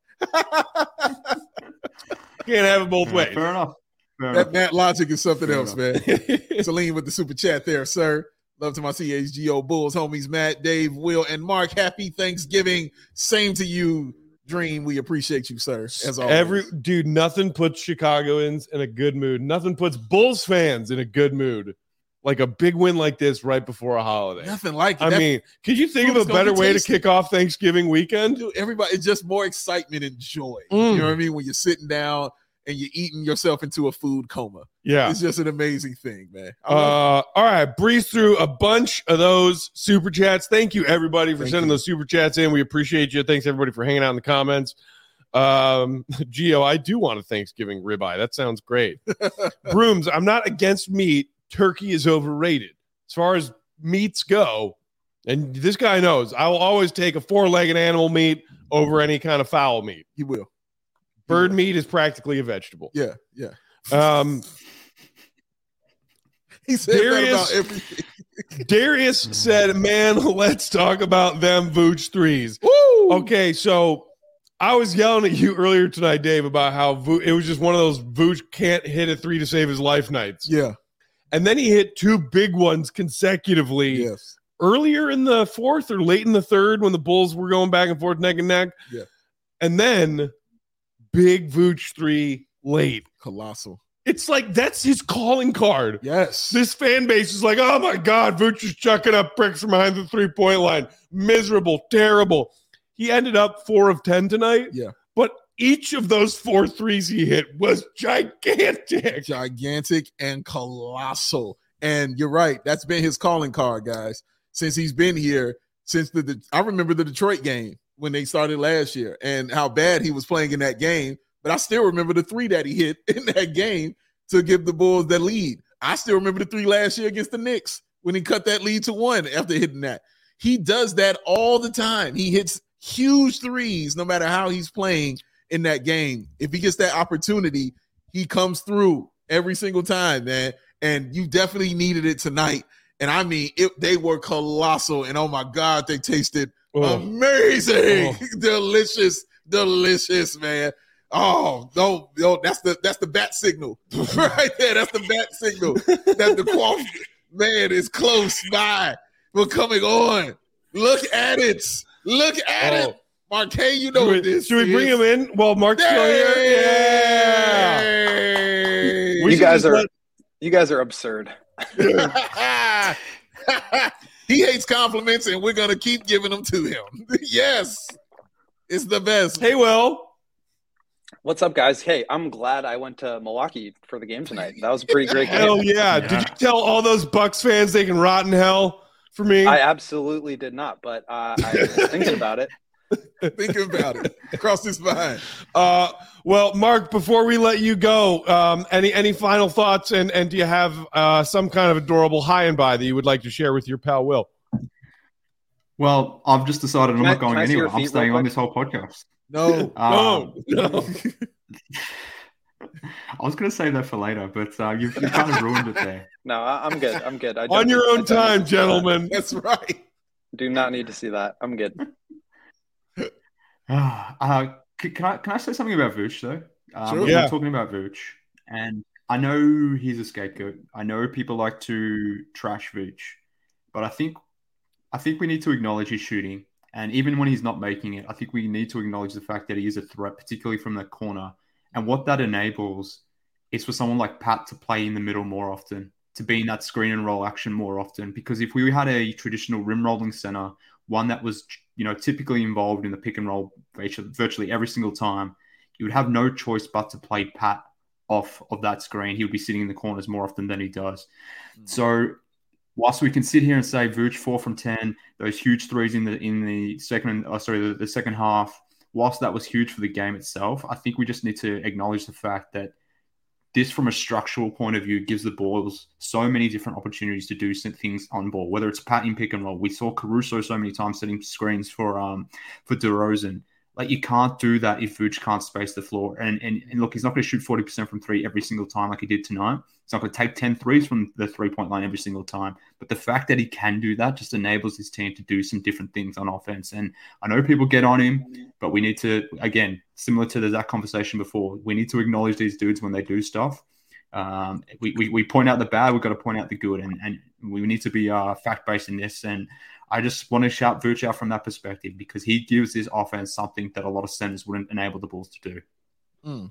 Can't have it both ways. Fair enough. That logic is something else, man. Celine with the super chat there, sir. Love to my CHGO Bulls homies, Matt, Dave, Will, and Mark. Happy Thanksgiving. Same to you, Dream. We appreciate you, sir. As always. Nothing puts Chicagoans in a good mood. Nothing puts Bulls fans in a good mood like a big win like this right before a holiday. Nothing like it. I mean, could you think of a better way to kick off Thanksgiving weekend? Dude, everybody, it's just more excitement and joy. You know what I mean? When you're sitting down and you're eating yourself into a food coma. Yeah. It's just an amazing thing, man. All right. Breeze through a bunch of those super chats. Thank you, everybody, for sending those super chats in. We appreciate you. Thanks, everybody, for hanging out in the comments. Gio, I do want a Thanksgiving ribeye. That sounds great. Brooms, I'm not against meat. Turkey is overrated. As far as meats go, and this guy knows, I will always take a 4-legged animal meat over any kind of fowl meat. You will. Bird meat is practically a vegetable. Yeah. He said that about everything. Darius said, man, let's talk about them Vooch threes. Woo! Okay, so I was yelling at you earlier tonight, Dave, about how it was just one of those Vooch can't hit a 3 to save his life nights. Yeah. And then he hit 2 big ones consecutively earlier in the fourth or late in the third when the Bulls were going back and forth neck and neck. Yeah. And then big Vooch 3 late. Colossal. It's like that's his calling card. Yes. This fan base is like, oh my God, Vooch is chucking up bricks from behind the 3-point line. Miserable, terrible. He ended up 4 of 10 tonight. Yeah. But each of those 4 threes he hit was gigantic. Gigantic and colossal. And you're right. That's been his calling card, guys. Since he's been here, since I remember the Detroit game when they started last year and how bad he was playing in that game. But I still remember the 3 that he hit in that game to give the Bulls the lead. I still remember the 3 last year against the Knicks when he cut that lead to 1 after hitting that. He does that all the time. He hits huge threes no matter how he's playing in that game. If he gets that opportunity, he comes through every single time, man. And you definitely needed it tonight. And I mean, they were colossal. And oh my God, they tasted amazing. Delicious, man. Oh, no, that's the bat signal right there. That's the bat signal that the quaff man is close by. We're coming on. Look at it. Marquet, you know what this is. Should we bring him in? Well, Mark's still here. Yeah. You guys are absurd. He hates compliments, and we're going to keep giving them to him. Yes. It's the best. Hey, Will. What's up, guys? Hey, I'm glad I went to Milwaukee for the game tonight. That was a pretty great game. Hell yeah. Did you tell all those Bucks fans they can rot in hell for me? I absolutely did not, but I was thinking about it. Crossed his mind. Well, Mark, before we let you go, any final thoughts, and do you have some kind of adorable high and by that you would like to share with your pal Will? Well, I've just decided I'm not going anywhere. I'm staying on this whole podcast. No. I was going to save that for later, but you've kind of ruined it there. No, I'm good. On your own time, gentlemen. That's right. Do not need to see that. I'm good. Can I say something about Vooch, though? Sure. We're talking about Vooch, and I know he's a scapegoat. I know people like to trash Vooch, but I think we need to acknowledge his shooting. And even when he's not making it, I think we need to acknowledge the fact that he is a threat, particularly from the corner. And what that enables is for someone like Pat to play in the middle more often, to be in that screen and roll action more often. Because if we had a traditional rim rolling center, one that was, typically involved in the pick and roll virtually every single time, you would have no choice but to play Pat off of that screen. He would be sitting in the corners more often than he does. So whilst we can sit here and say Vooch 4 from 10, those huge threes in the second half, whilst that was huge for the game itself, I think we just need to acknowledge the fact that this, from a structural point of view, gives the Bulls so many different opportunities to do some things on ball, whether it's Pat in pick and roll. We saw Caruso so many times setting screens for DeRozan. Like, you can't do that if Vooch can't space the floor. And look, he's not going to shoot 40% from three every single time like he did tonight. He's not going to take 10 threes from the three-point line every single time. But the fact that he can do that just enables his team to do some different things on offense. And I know people get on him, but we need to, again, similar to that conversation before, we need to acknowledge these dudes when they do stuff. We point out the bad, we've got to point out the good. And we need to be fact-based in this. And I just want to shout Vooch out from that perspective, because he gives this offense something that a lot of centers wouldn't enable the Bulls to do.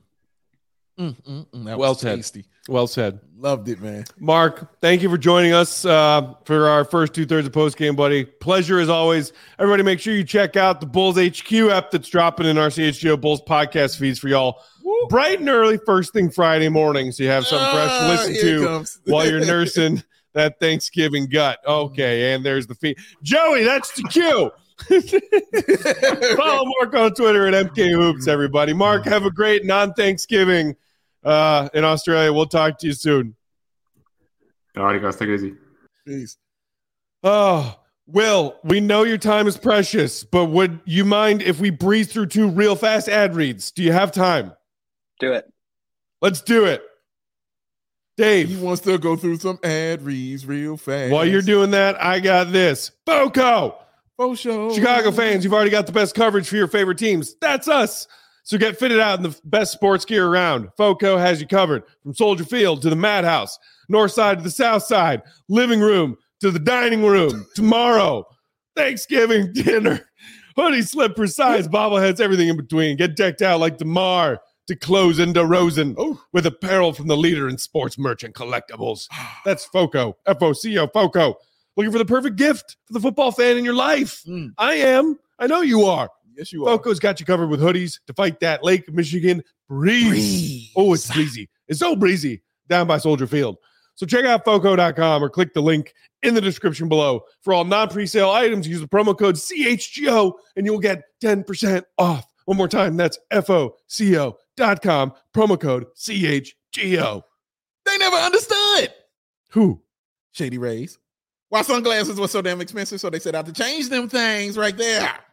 Well said. Tasty. Well said. Loved it, man. Mark, thank you for joining us for our first 2/3 of postgame, buddy. Pleasure as always. Everybody, make sure you check out the Bulls HQ app that's dropping in our CHGO Bulls podcast feeds for y'all. Woo. Bright and early, first thing Friday morning, so you have something fresh to listen to while you're nursing that Thanksgiving gut. Okay, and there's the feed. Joey, that's the cue. Follow Mark on Twitter at MKHoops, everybody. Mark, have a great non-Thanksgiving in Australia. We'll talk to you soon. All right, guys. Take it easy. Peace. Oh, Will, we know your time is precious, but would you mind if we breeze through 2 real fast ad reads? Do you have time? Do it. Let's do it. Dave. He wants to go through some ad reads real fast. While you're doing that, I got this. FOCO. Chicago fans, you've already got the best coverage for your favorite teams. That's us. So get fitted out in the best sports gear around. FOCO has you covered from Soldier Field to the Madhouse, north side to the south side, living room to the dining room. Tomorrow, Thanksgiving dinner, hoodie, slippers, size, bobbleheads, everything in between. Get decked out like DeMar to close into Rosen with apparel from the leader in sports merchant collectibles. That's FOCO, FOCO, FOCO. Looking for the perfect gift for the football fan in your life? I am. I know you are. Yes, you are. FOCO's got you covered with hoodies to fight that Lake Michigan breeze. Oh, it's breezy. It's so breezy down by Soldier Field. So check out FOCO.com or click the link in the description below. For all non-presale items, use the promo code CHGO and you'll get 10% off. One more time, that's FOCO.com, promo code CHGO. They never understood. Who? Shady Rays. Why sunglasses were so damn expensive, so they set out to change them things right there.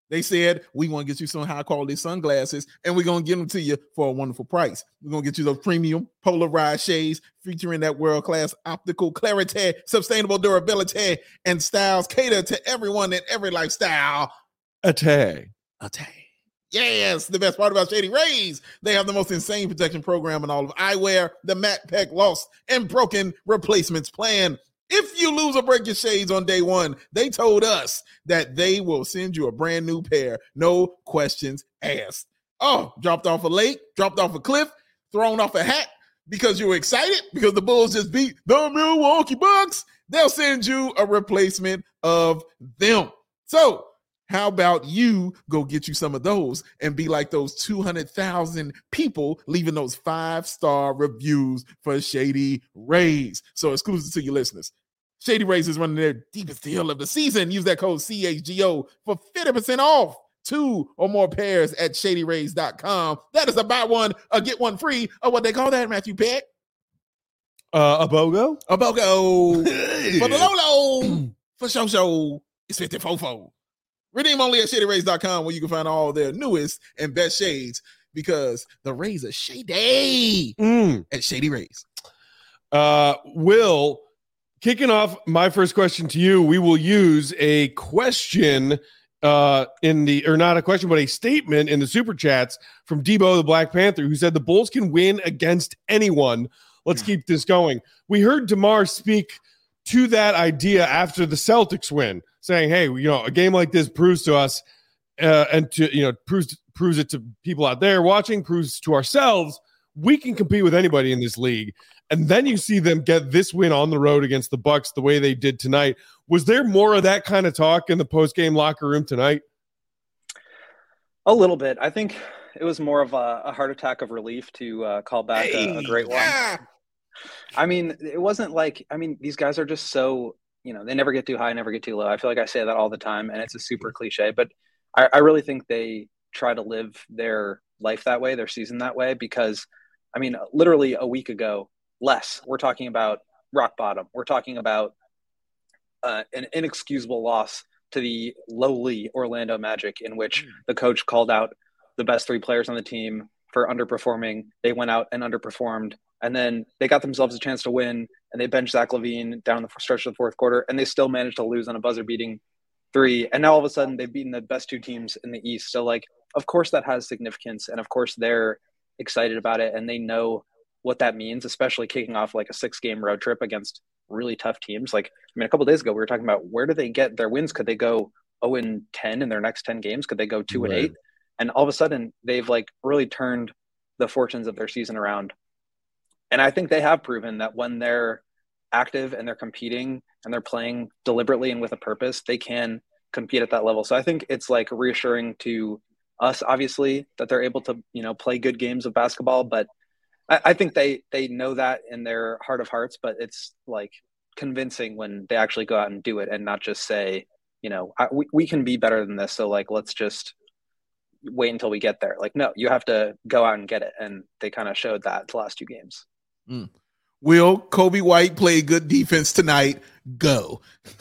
They said, we want to get you some high quality sunglasses and we're going to give them to you for a wonderful price. We're going to get you those premium polarized shades featuring that world-class optical clarity, sustainable durability, and styles cater to everyone in every lifestyle. Atay. Yes, the best part about Shady Rays, they have the most insane protection program in all of eyewear, the Matte Pack Lost and Broken Replacements Plan. If you lose or break your shades on day one, they told us that they will send you a brand new pair. No questions asked. Oh, dropped off a lake, dropped off a cliff, thrown off a hat because you were excited because the Bulls just beat the Milwaukee Bucks. They'll send you a replacement of them. So how about you go get you some of those and be like those 200,000 people leaving those 5-star reviews for Shady Rays? So exclusive to your listeners. Shady Rays is running their deepest deal of the season. Use that code CHGO for 50% off 2 or more pairs at shadyrays.com. That is a buy one or get one free, or what they call that, Matthew Peck? A BOGO? A BOGO. For the Lolo. For show. It's 54. Redeem only at shadyrays.com, where you can find all their newest and best shades, because the Rays are shady at Shady Rays. Will, kicking off my first question to you, we will use a question not a question, but a statement in the Super Chats from Debo the Black Panther, who said the Bulls can win against anyone. Let's keep this going. We heard DeMar speak to that idea after the Celtics win, saying, hey, a game like this proves to us and to, proves it to people out there watching, proves to ourselves, we can compete with anybody in this league. And then you see them get this win on the road against the Bucks the way they did tonight. Was there more of that kind of talk in the post-game locker room tonight? A little bit. I think it was more of a heart attack of relief to call back a great one. I mean, it wasn't like, these guys are just so, they never get too high, never get too low. I feel like I say that all the time, and it's a super cliche, but I really think they try to live their life that way, their season that way, because, literally a week ago, we're talking about rock bottom. We're talking about an inexcusable loss to the lowly Orlando Magic, in which the coach called out the best 3 players on the team for underperforming. They went out and underperformed. And then they got themselves a chance to win, and they benched Zach LaVine down the stretch of the fourth quarter, and they still managed to lose on a buzzer-beating 3. And now all of a sudden they've beaten the best 2 teams in the East. So, of course that has significance, and of course they're excited about it, and they know what that means, especially kicking off a 6-game road trip against really tough teams. A couple of days ago we were talking about, where do they get their wins? Could they go 0-10 in their next 10 games? Could they go 2-8? And all of a sudden they've really turned the fortunes of their season around. And I think they have proven that when they're active and they're competing and they're playing deliberately and with a purpose, they can compete at that level. So I think it's reassuring to us, obviously, that they're able to, play good games of basketball. But I think they know that in their heart of hearts, but it's convincing when they actually go out and do it and not just say, we can be better than this. So let's just wait until we get there. No, you have to go out and get it. And they kind of showed that the last 2 games. Will Kobe White play good defense tonight? Go.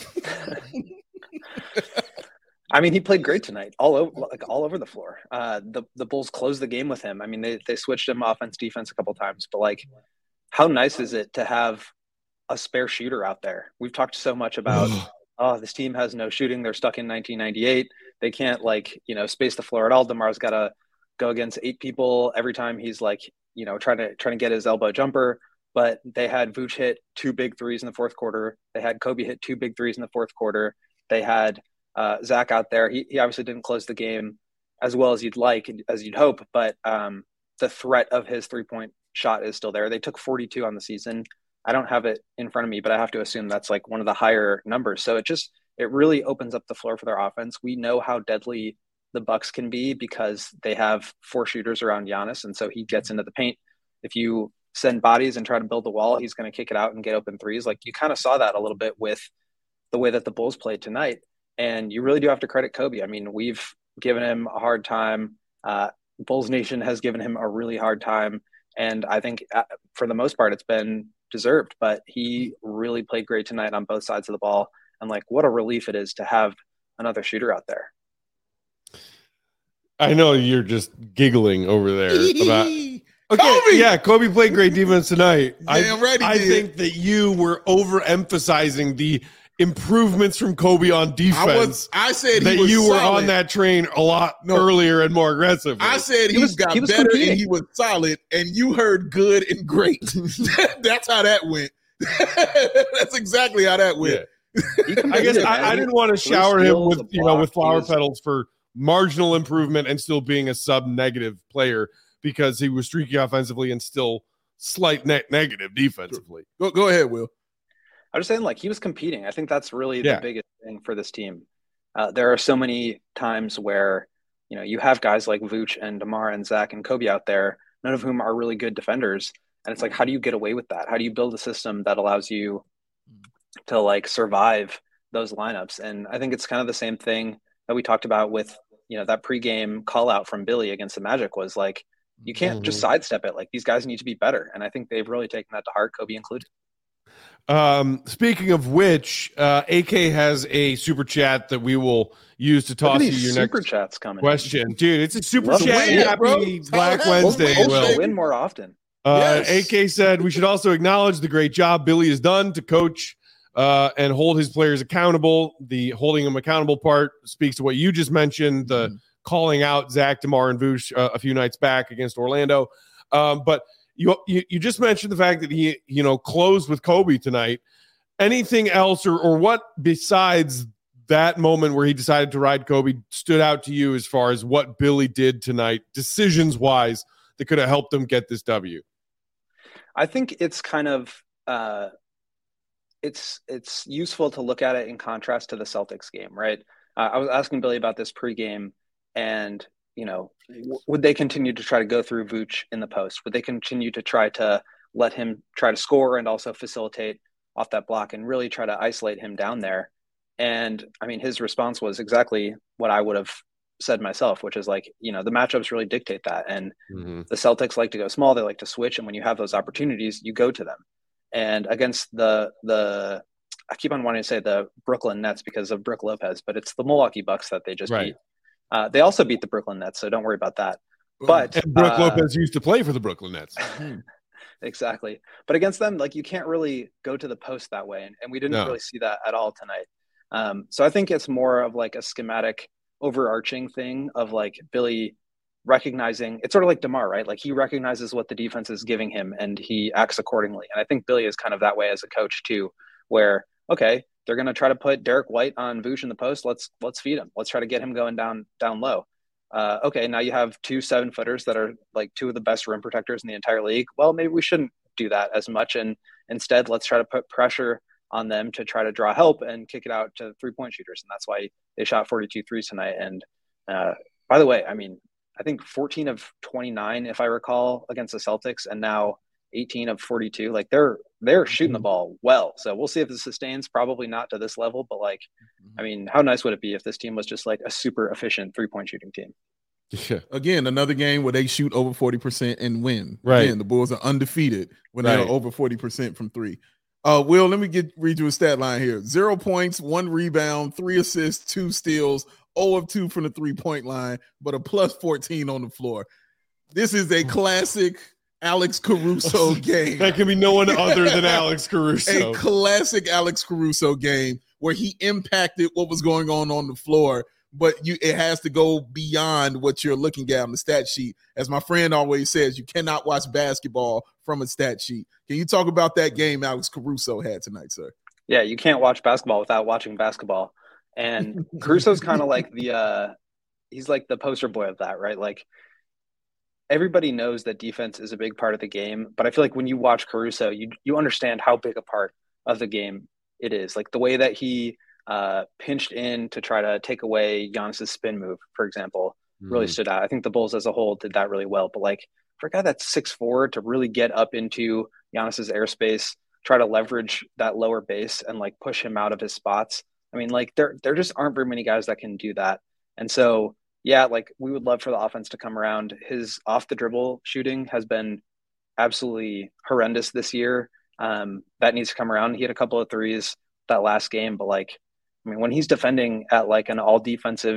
He played great tonight, all over the floor. The Bulls closed the game with him. They switched him offense, defense a couple times, but how nice is it to have a spare shooter out there? We've talked so much about, this team has no shooting. They're stuck in 1998. They can't space the floor at all. DeMar's got to go against 8 people every time he's trying to get his elbow jumper. But they had Vooch hit 2 big threes in the fourth quarter. They had Kobe hit 2 big threes in the fourth quarter. They had Zach out there. He obviously didn't close the game as well as you'd hope, but the threat of his 3-point shot is still there. They took 42 on the season. I don't have it in front of me, but I have to assume that's one of the higher numbers. So it really opens up the floor for their offense. We know how deadly the Bucks can be because they have 4 shooters around Giannis, and so he gets into the paint. If you send bodies and try to build the wall, he's going to kick it out and get open threes. You kind of saw that a little bit with the way that the Bulls played tonight. And you really do have to credit Kobe. We've given him a hard time. Bulls Nation has given him a really hard time. And I think for the most part, it's been deserved. But he really played great tonight on both sides of the ball. And what a relief it is to have another shooter out there. I know you're just giggling over there about. Okay, Kobe! yeah, Kobe played great defense tonight. Damn right he I did. think that you were overemphasizing the improvements from Kobe on defense. I said that he was you were solid. on that train a lot earlier and more aggressively. I said he got better competing. And he was solid, and you heard good and great. That's how that went. That's exactly how that went. Yeah. I guess I didn't want to shower him with with flower petals for marginal improvement and still being a sub-negative player because he was streaky offensively and still slight negative defensively. Go ahead, Will. I'm just saying, like, he was competing. I think that's really the biggest thing for this team. There are so many times where, you have guys like Vooch and DeMar and Zach and Kobe out there, none of whom are really good defenders. And it's like, how do you get away with that? How do you build a system that allows you to, like, survive those lineups? And I think it's kind of the same thing that we talked about with, that pregame call out from Billy against the Magic was like, you can't just sidestep it. Like, these guys need to be better. And I think they've really taken that to heart, Kobe included. Speaking of which, AK has a super chat that we will use to toss you your super next chats coming question. Dude, it's a super chat. Happy Black Wednesday. We'll win more often. AK said we should also acknowledge the great job Billy has done to coach and hold his players accountable. The holding them accountable part speaks to what you just mentioned, the calling out Zach, DeMar, and Vooch a few nights back against Orlando. But you just mentioned the fact that he closed with Kobe tonight. Anything else or what besides that moment where he decided to ride Kobe stood out to you as far as what Billy did tonight, decisions wise, that could have helped them get this W? I think it's kind of it's useful to look at it in contrast to the Celtics game, right? I was asking Billy about this pregame, and would they continue to try to go through Vooch in the post? Would they continue to try to let him try to score and also facilitate off that block and really try to isolate him down there? And I mean, his response was exactly what I would have said myself, which is like, the matchups really dictate that. And the Celtics like to go small. They like to switch. And when you have those opportunities, you go to them. And against the I keep on wanting to say the Brooklyn Nets because of Brook Lopez, but it's the Milwaukee Bucks that they just beat. They also beat the Brooklyn Nets, so don't worry about that. But and Brook Lopez used to play for the Brooklyn Nets. Exactly. But against them, like, you can't really go to the post that way. And we didn't really see that at all tonight. So I think it's more of like a schematic overarching thing of like Billy recognizing, it's sort of like DeMar, right? Like, he recognizes what the defense is giving him and he acts accordingly. And I think Billy is kind of that way as a coach too, where, okay, they're going to try to put Derek White on Vooch in the post. Let's feed him. Let's try to get him going down low. Okay, now you have 2 7-footers that are like 2 of the best rim protectors in the entire league. Well, maybe we shouldn't do that as much. And instead, let's try to put pressure on them to try to draw help and kick it out to 3-point shooters. And that's why they shot 42 threes tonight. And by the way, I mean, I think 14 of 29, if I recall, against the Celtics, and now 18 of 42. Like, they're shooting the ball well. So we'll see if this sustains. Probably not to this level, but like, I mean, how nice would it be if this team was just like a super efficient 3-point shooting team? Yeah. Again, another game where they shoot over 40% and win. Right. Again, the Bulls are undefeated when they're over 40% from 3. Will, let me read you a stat line here. 0 points, 1 rebound, 3 assists, 2 steals, 0 of 2 from the 3-point line, but a plus 14 on the floor. This is a classic Alex Caruso game. That can be no one other than Alex Caruso. A classic Alex Caruso game where he impacted what was going on the floor, but it has to go beyond what you're looking at on the stat sheet. As my friend always says, you cannot watch basketball from a stat sheet. Can you talk about that game Alex Caruso had tonight, sir? Yeah, you can't watch basketball without watching basketball. And Caruso's kind of like he's like the poster boy of that, right? Like, everybody knows that defense is a big part of the game, but I feel like when you watch Caruso, you understand how big a part of the game it is. Like, the way that he pinched in to try to take away Giannis's spin move, for example, really stood out. I think the Bulls as a whole did that really well. But like, for a guy that's 6'4" to really get up into Giannis's airspace, try to leverage that lower base and like push him out of his spots. I mean, like, there just aren't very many guys that can do that. And so, yeah, like, we would love for the offense to come around. His off the dribble shooting has been absolutely horrendous this year. That needs to come around. He had a couple of threes that last game, but like, I mean, when he's defending at like an all defensive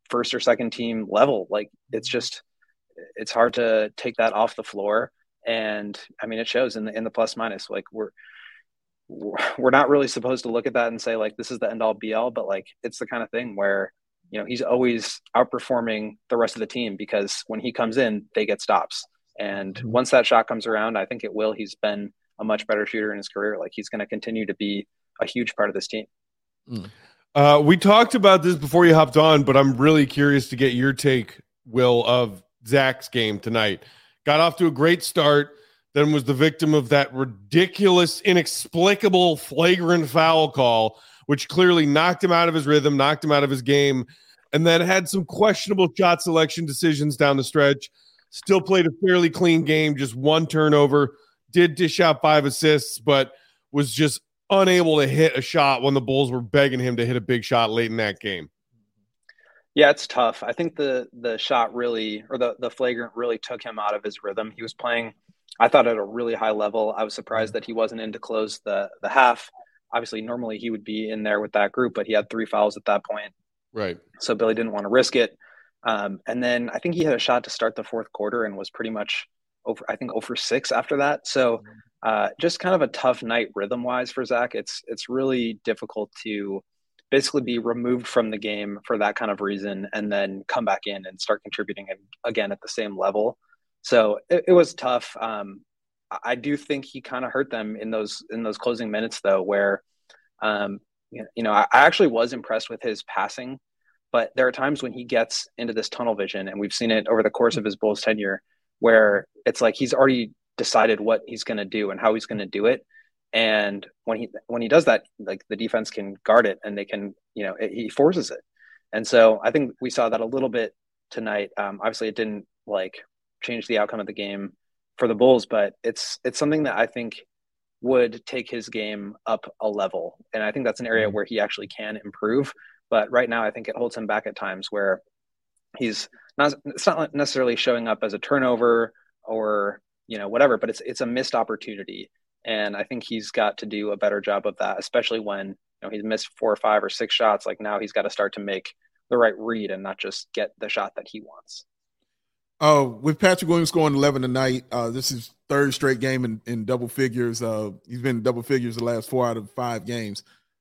first or second team level. Like it's hard to take that off the floor. And I mean, it shows in the plus minus. Like we're not really supposed to look at that and say like this is the end all be all, but like it's the kind of thing where, you know, he's always outperforming the rest of the team because when he comes in, they get stops. And once that shot comes around, I think it will. He's been a much better shooter in his career. Like he's going to continue to be a huge part of this team. We talked about this before you hopped on, but I'm really curious to get your take, Will, of Zach's game tonight. Got off to a great start, then was the victim of that ridiculous, inexplicable, flagrant foul call, which clearly knocked him out of his rhythm, knocked him out of his game, and then had some questionable shot selection decisions down the stretch. Still played a fairly clean game, just one turnover, did dish out 5 assists, but was just unable to hit a shot when the Bulls were begging him to hit a big shot late in that game. Yeah, it's tough. I think the shot really, or the flagrant really took him out of his rhythm. He was playing, I thought, at a really high level. I was surprised that he wasn't in to close the half. Obviously, normally he would be in there with that group, but he had 3 fouls at that point. Right. So Billy didn't want to risk it. And then I think he had a shot to start the fourth quarter and was pretty much over, I think, 0 for 6 after that. So just kind of a tough night rhythm-wise for Zach. It's really difficult to basically be removed from the game for that kind of reason and then come back in and start contributing again at the same level. So it was tough. I do think he kind of hurt them in those closing minutes, though, where, I actually was impressed with his passing. But there are times when he gets into this tunnel vision, and we've seen it over the course of his Bulls tenure, where it's like he's already decided what he's going to do and how he's going to do it. And when he does that, like the defense can guard it and they can, he forces it. And so I think we saw that a little bit tonight. Obviously, it didn't like change the outcome of the game for the Bulls, but it's something that I think would take his game up a level. And I think that's an area where he actually can improve. But right now, I think it holds him back at times where it's not necessarily showing up as a turnover or, whatever, but it's a missed opportunity. And I think he's got to do a better job of that, especially when, he's missed 4 or 5 or 6 shots. Like now he's got to start to make the right read and not just get the shot that he wants. With Patrick Williams scoring 11 tonight, this is 3rd straight game in double figures. He's been in double figures the last 4 out of 5 games.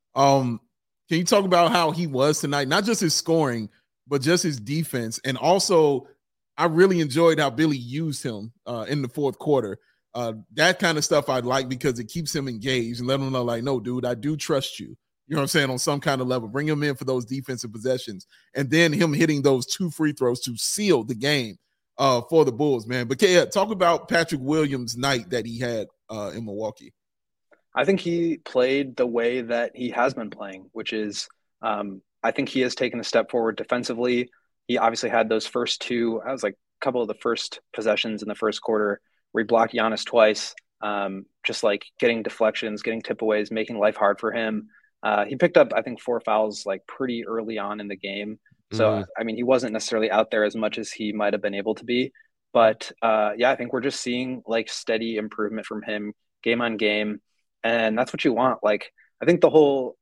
Can you talk about how he was tonight? Not just his scoring, but just his defense. And also, I really enjoyed how Billy used him in the fourth quarter. That kind of stuff I like because it keeps him engaged and let him know, like, no, dude, I do trust you. You know what I'm saying? On some kind of level. Bring him in for those defensive possessions. And then him hitting those 2 free throws to seal the game for the Bulls, man. But, yeah, talk about Patrick Williams' night that he had in Milwaukee. I think he played the way that he has been playing, which is I think he has taken a step forward defensively. He obviously had those first 2, I was like a couple of the first possessions in the first quarter where he blocked Giannis twice, just like getting deflections, getting tip-aways, making life hard for him. He picked up, I think, 4 fouls like pretty early on in the game. So, I mean, he wasn't necessarily out there as much as he might have been able to be. But, I think we're just seeing like steady improvement from him game on game. And that's what you want. Like, I think the whole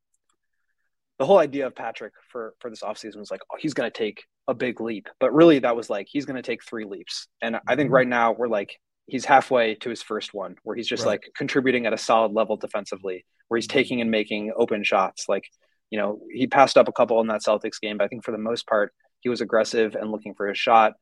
idea of Patrick for this offseason was like, oh, he's going to take a big leap. But really that was like, he's going to take 3 leaps. And I think right now we're like, he's halfway to his first one where he's just like contributing at a solid level defensively, where he's taking and making open shots. Like, he passed up a couple in that Celtics game, but I think for the most part, he was aggressive and looking for his shot.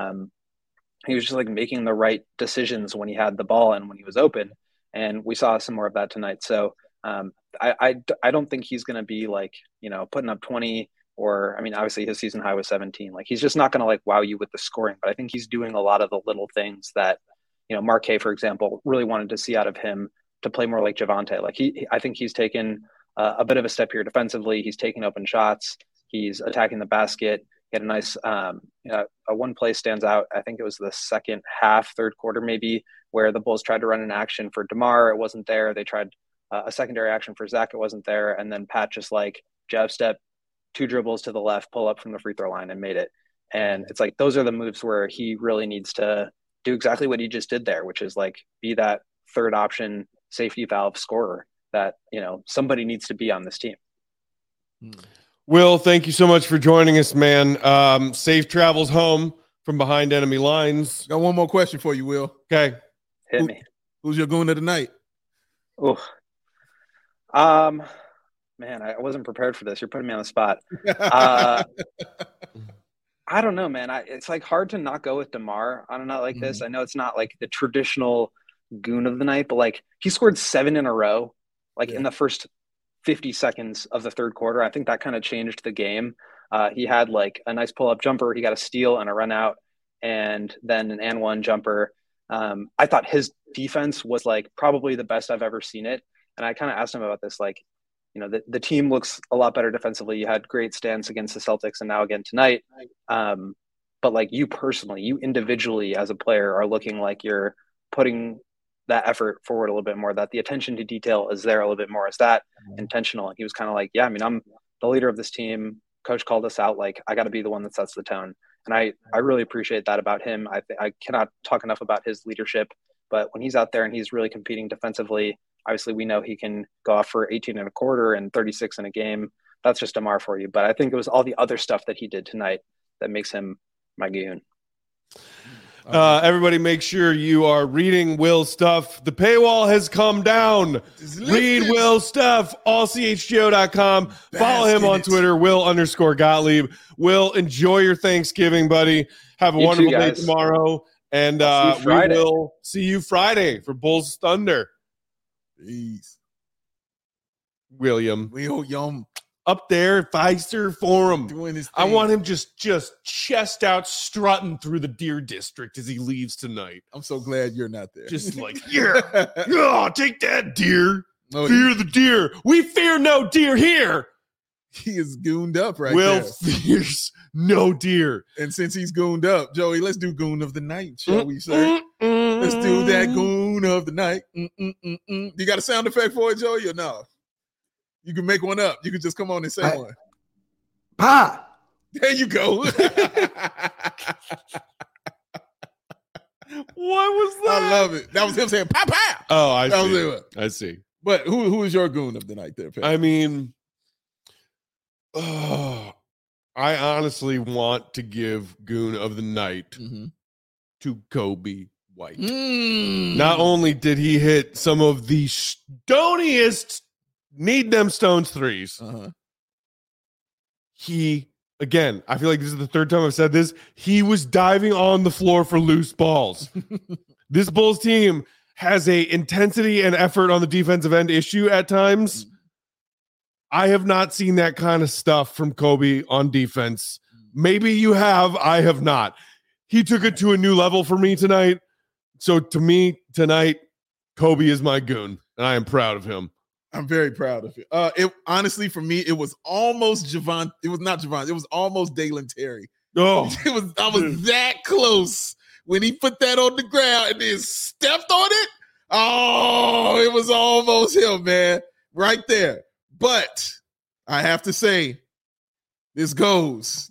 He was just like making the right decisions when he had the ball and when he was open. And we saw some more of that tonight. So I don't think he's going to be like, putting up 20 or, I mean, obviously his season high was 17. Like he's just not going to like wow you with the scoring, but I think he's doing a lot of the little things that, Mark K, for example, really wanted to see out of him to play more like Javonte. Like I think he's taken a bit of a step here defensively. He's taking open shots. He's attacking the basket. He had a nice, a one play stands out. I think it was the second half, third quarter maybe, where the Bulls tried to run an action for DeMar. It wasn't there. They tried a secondary action for Zach. It wasn't there. And then Pat just like jab step, 2 dribbles to the left, pull up from the free throw line and made it. And it's like, those are the moves where he really needs to do exactly what he just did there, which is like be that third option safety valve scorer that, somebody needs to be on this team. Will, thank you so much for joining us, man. Safe travels home from behind enemy lines. Got one more question for you, Will. Okay. Hit me. Who's your goon of the night? Oh, man, I wasn't prepared for this. You're putting me on the spot. I don't know, man. It's like hard to not go with DeMar on a night like this. I know it's not like the traditional goon of the night, but like he scored 7 in a row, like in the first 50 seconds of the third quarter. I think that kind of changed the game. He had like a nice pull-up jumper. He got a steal and a run out, and then an and one jumper. I thought his defense was like probably the best I've ever seen it. And I kind of asked him about this, like, you know, the team looks a lot better defensively. You had great stands against the Celtics and now again tonight. But like you personally, you individually as a player are looking like you're putting that effort forward a little bit more, that the attention to detail is there a little bit more. Is that intentional? And he was kind of like, yeah, I mean, I'm the leader of this team. Coach called us out. Like, I got to be the one that sets the tone. And I really appreciate that about him. I cannot talk enough about his leadership, but when he's out there and he's really competing defensively, obviously we know he can go off for 18 and a quarter and 36 in a game. That's just DeMar for you. But I think it was all the other stuff that he did tonight that makes him my goon. Everybody make sure you are reading Will's stuff. The paywall has come down. Read Will's stuff, allchgo.com. Follow him on Twitter, Will_Gottlieb. Will, enjoy your Thanksgiving, buddy. Have a wonderful day tomorrow. And we will see you Friday for Bulls Thunder. Peace. William. William. Up there at Fiserv Forum. Doing his thing. I want him just chest out strutting through the Deer District as he leaves tonight. I'm so glad you're not there. Just like, yeah, take that, deer. Fear the deer. We fear no deer here. He is gooned up right Will there. fears no deer. And since he's gooned up, Joey, let's do goon of the night, shall we, sir? Let's do that goon of the night. You got a sound effect for it, Joey, or no? You can make one up. You can just come on and say one. Pa! There you go. What was that? I love it. That was him saying, pa, pa. Oh, I that see. Was it. I see. But who is your goon of the night there, Pat? I mean, I honestly want to give goon of the night to Kobe White. Not only did he hit some of the stoniest need them stones threes, he, again, I feel like this is the third time I've said this, he was diving on the floor for loose balls. This Bulls team has a intensity and effort on the defensive end issue at times. I have not seen that kind of stuff from Kobe on defense. Maybe you have. I have not. He took it to a new level for me tonight. So to me tonight, Kobe is my goon, and I am proud of him. I'm very proud of it. It honestly, for me, it was almost Javon. It was not Javon. It was almost Dalen Terry. Oh, I was that close when he put that on the ground and then stepped on it. Oh, it was almost him, man, right there. But I have to say, this goes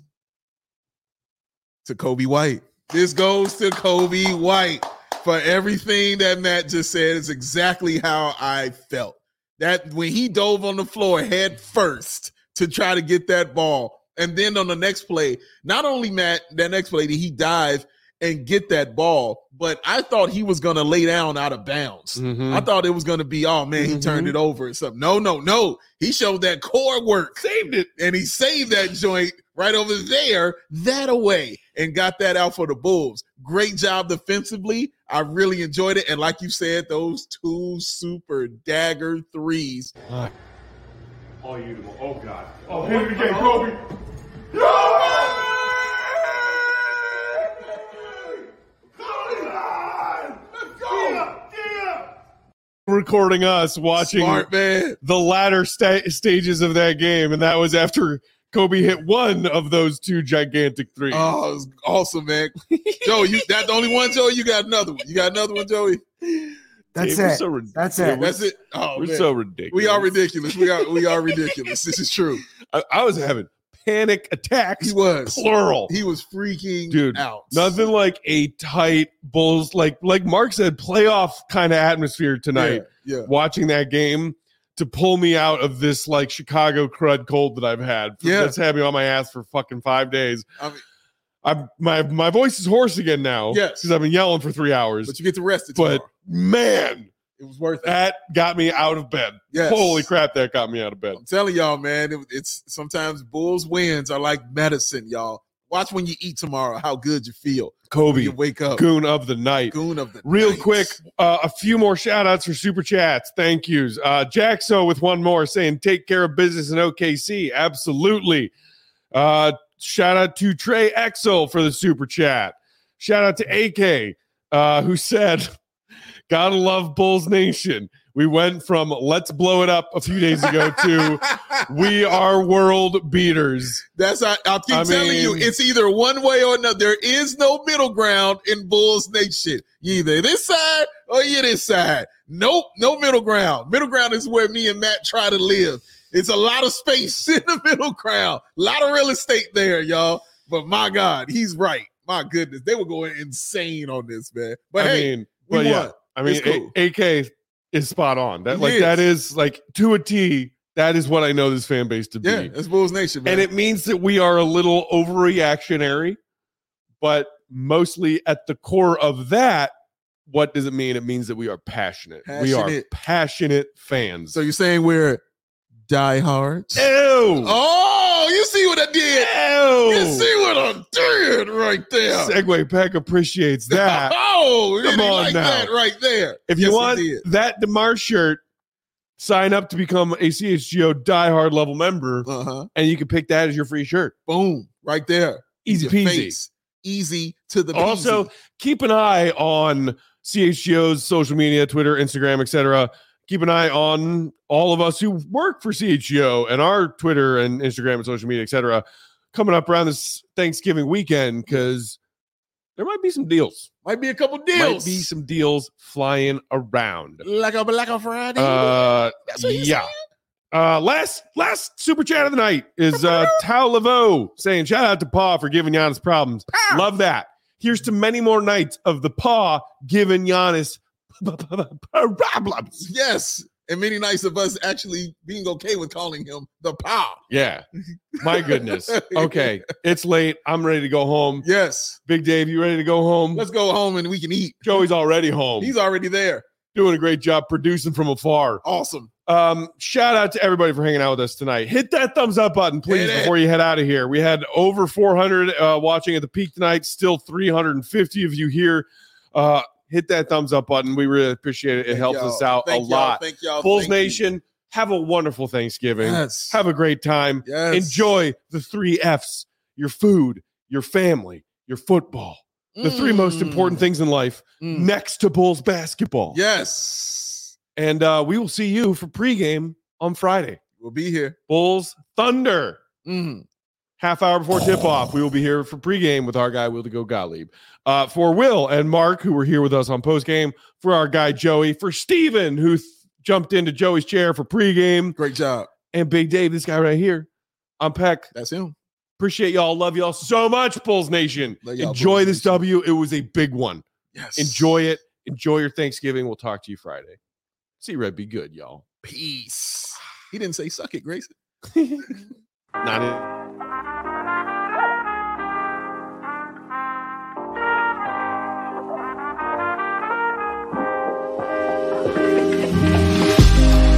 to Kobe White. This goes to Kobe White for everything that Matt just said. Is exactly how I felt. That when he dove on the floor head first to try to get that ball, and then on the next play, not only Matt, that next play did he dive and get that ball, but I thought he was going to lay down out of bounds. I thought it was going to be, oh, man, he turned it over or something. No. He showed that core work. Saved it. And he saved that joint right over there, that away, and got that out for the Bulls. Great job defensively. I really enjoyed it. And like you said, those two super dagger threes. Oh, God. Oh, hit it again, Kobe. Recording us watching the latter stages of that game, and that was after Kobe hit one of those two gigantic threes. Oh, it was awesome, man. Joe, that's the only one, Joey? You got another one. You got another one, Joey? That's it. That's it. That's it. Oh, we're man. so ridiculous. We are ridiculous. We are ridiculous. This is true. I was having panic attacks. He was plural. He was freaking out. Nothing like a tight Bulls, like Mark said, playoff kind of atmosphere tonight. Yeah. Watching that game, to pull me out of this like Chicago crud cold that I've had. That's had me on my ass for fucking 5 days. I mean, my voice is hoarse again now. Yes, because I've been yelling for 3 hours. But you get to rest. But man, it was worth it. That got me out of bed. Yes. Holy crap, that got me out of bed. I'm telling y'all, man, it's sometimes Bulls wins are like medicine, y'all. Watch when you eat tomorrow how good you feel. Kobe, you wake up. Goon of the night. Real quick, a few more shout outs for super chats. Thank yous. Jaxo with one more saying, take care of business in OKC. Absolutely. Shout out to Trey Exel for the super chat. Shout out to AK, who said, gotta love Bulls Nation. We went from let's blow it up a few days ago to we are world beaters. I'll keep telling you, it's either one way or another. There is no middle ground in Bulls Nation. You either this side or you this side. Nope, no middle ground. Middle ground is where me and Matt try to live. It's a lot of space in the middle ground. A lot of real estate there, y'all. But my God, he's right. My goodness, they were going insane on this, man. But we won. Yeah. I mean, cool. AK is spot on. That is like to a T. That is what I know this fan base to be. Yeah, it's Bulls Nation, man. And it means that we are a little overreactionary, but mostly at the core of that, what does it mean? It means that we are passionate. We are passionate fans. So you're saying we're diehards? Ew. Oh, you see what I did? Ew. You see what I did right there? Segway Peck appreciates that. Oh, come on like now. That right there. If you want that DeMar shirt, sign up to become a CHGO diehard level member, and you can pick that as your free shirt. Boom, right there. Easy peasy. Easy to the Also, keep an eye on CHGO's social media, Twitter, Instagram, etc. Keep an eye on all of us who work for CHGO and our Twitter and Instagram and social media, etc. coming up around this Thanksgiving weekend, because there might be some deals. Might be a couple deals. Might be some deals flying around. Like a Friday. Yeah. Last super chat of the night is Tao Laveau saying, shout out to Paw for giving Giannis problems. Love that. Here's to many more nights of the Paw giving Giannis problems. Yes. And many nights of us actually being okay with calling him the Paw. Yeah. My goodness. Okay. It's late. I'm ready to go home. Yes. Big Dave, you ready to go home? Let's go home and we can eat. Joey's already home. He's already there. Doing a great job producing from afar. Awesome. Shout out to everybody for hanging out with us tonight. Hit that thumbs up button, please, before you head out of here. We had over 400 watching at the peak tonight. Still 350 of you here. Hit that thumbs up button. We really appreciate it. It helps us out a lot. Thank y'all. Bulls Nation, have a wonderful Thanksgiving. Yes. Have a great time. Yes. Enjoy the 3 Fs: your food, your family, your football. The 3 most important things in life next to Bulls basketball. Yes. And we will see you for pregame on Friday. We'll be here. Bulls Thunder. Half hour before tip-off, we will be here for pregame with our guy, Will to Go Gottlieb. For Will and Mark, who were here with us on postgame. For our guy, Joey. For Steven, who jumped into Joey's chair for pregame. Great job. And Big Dave, this guy right here. I'm Peck. That's him. Appreciate y'all. Love y'all so much, Bulls Nation. Enjoy this W. It was a big one. Yes. Enjoy it. Enjoy your Thanksgiving. We'll talk to you Friday. See Red be good, y'all. Peace. He didn't say suck it, Grayson. Not it.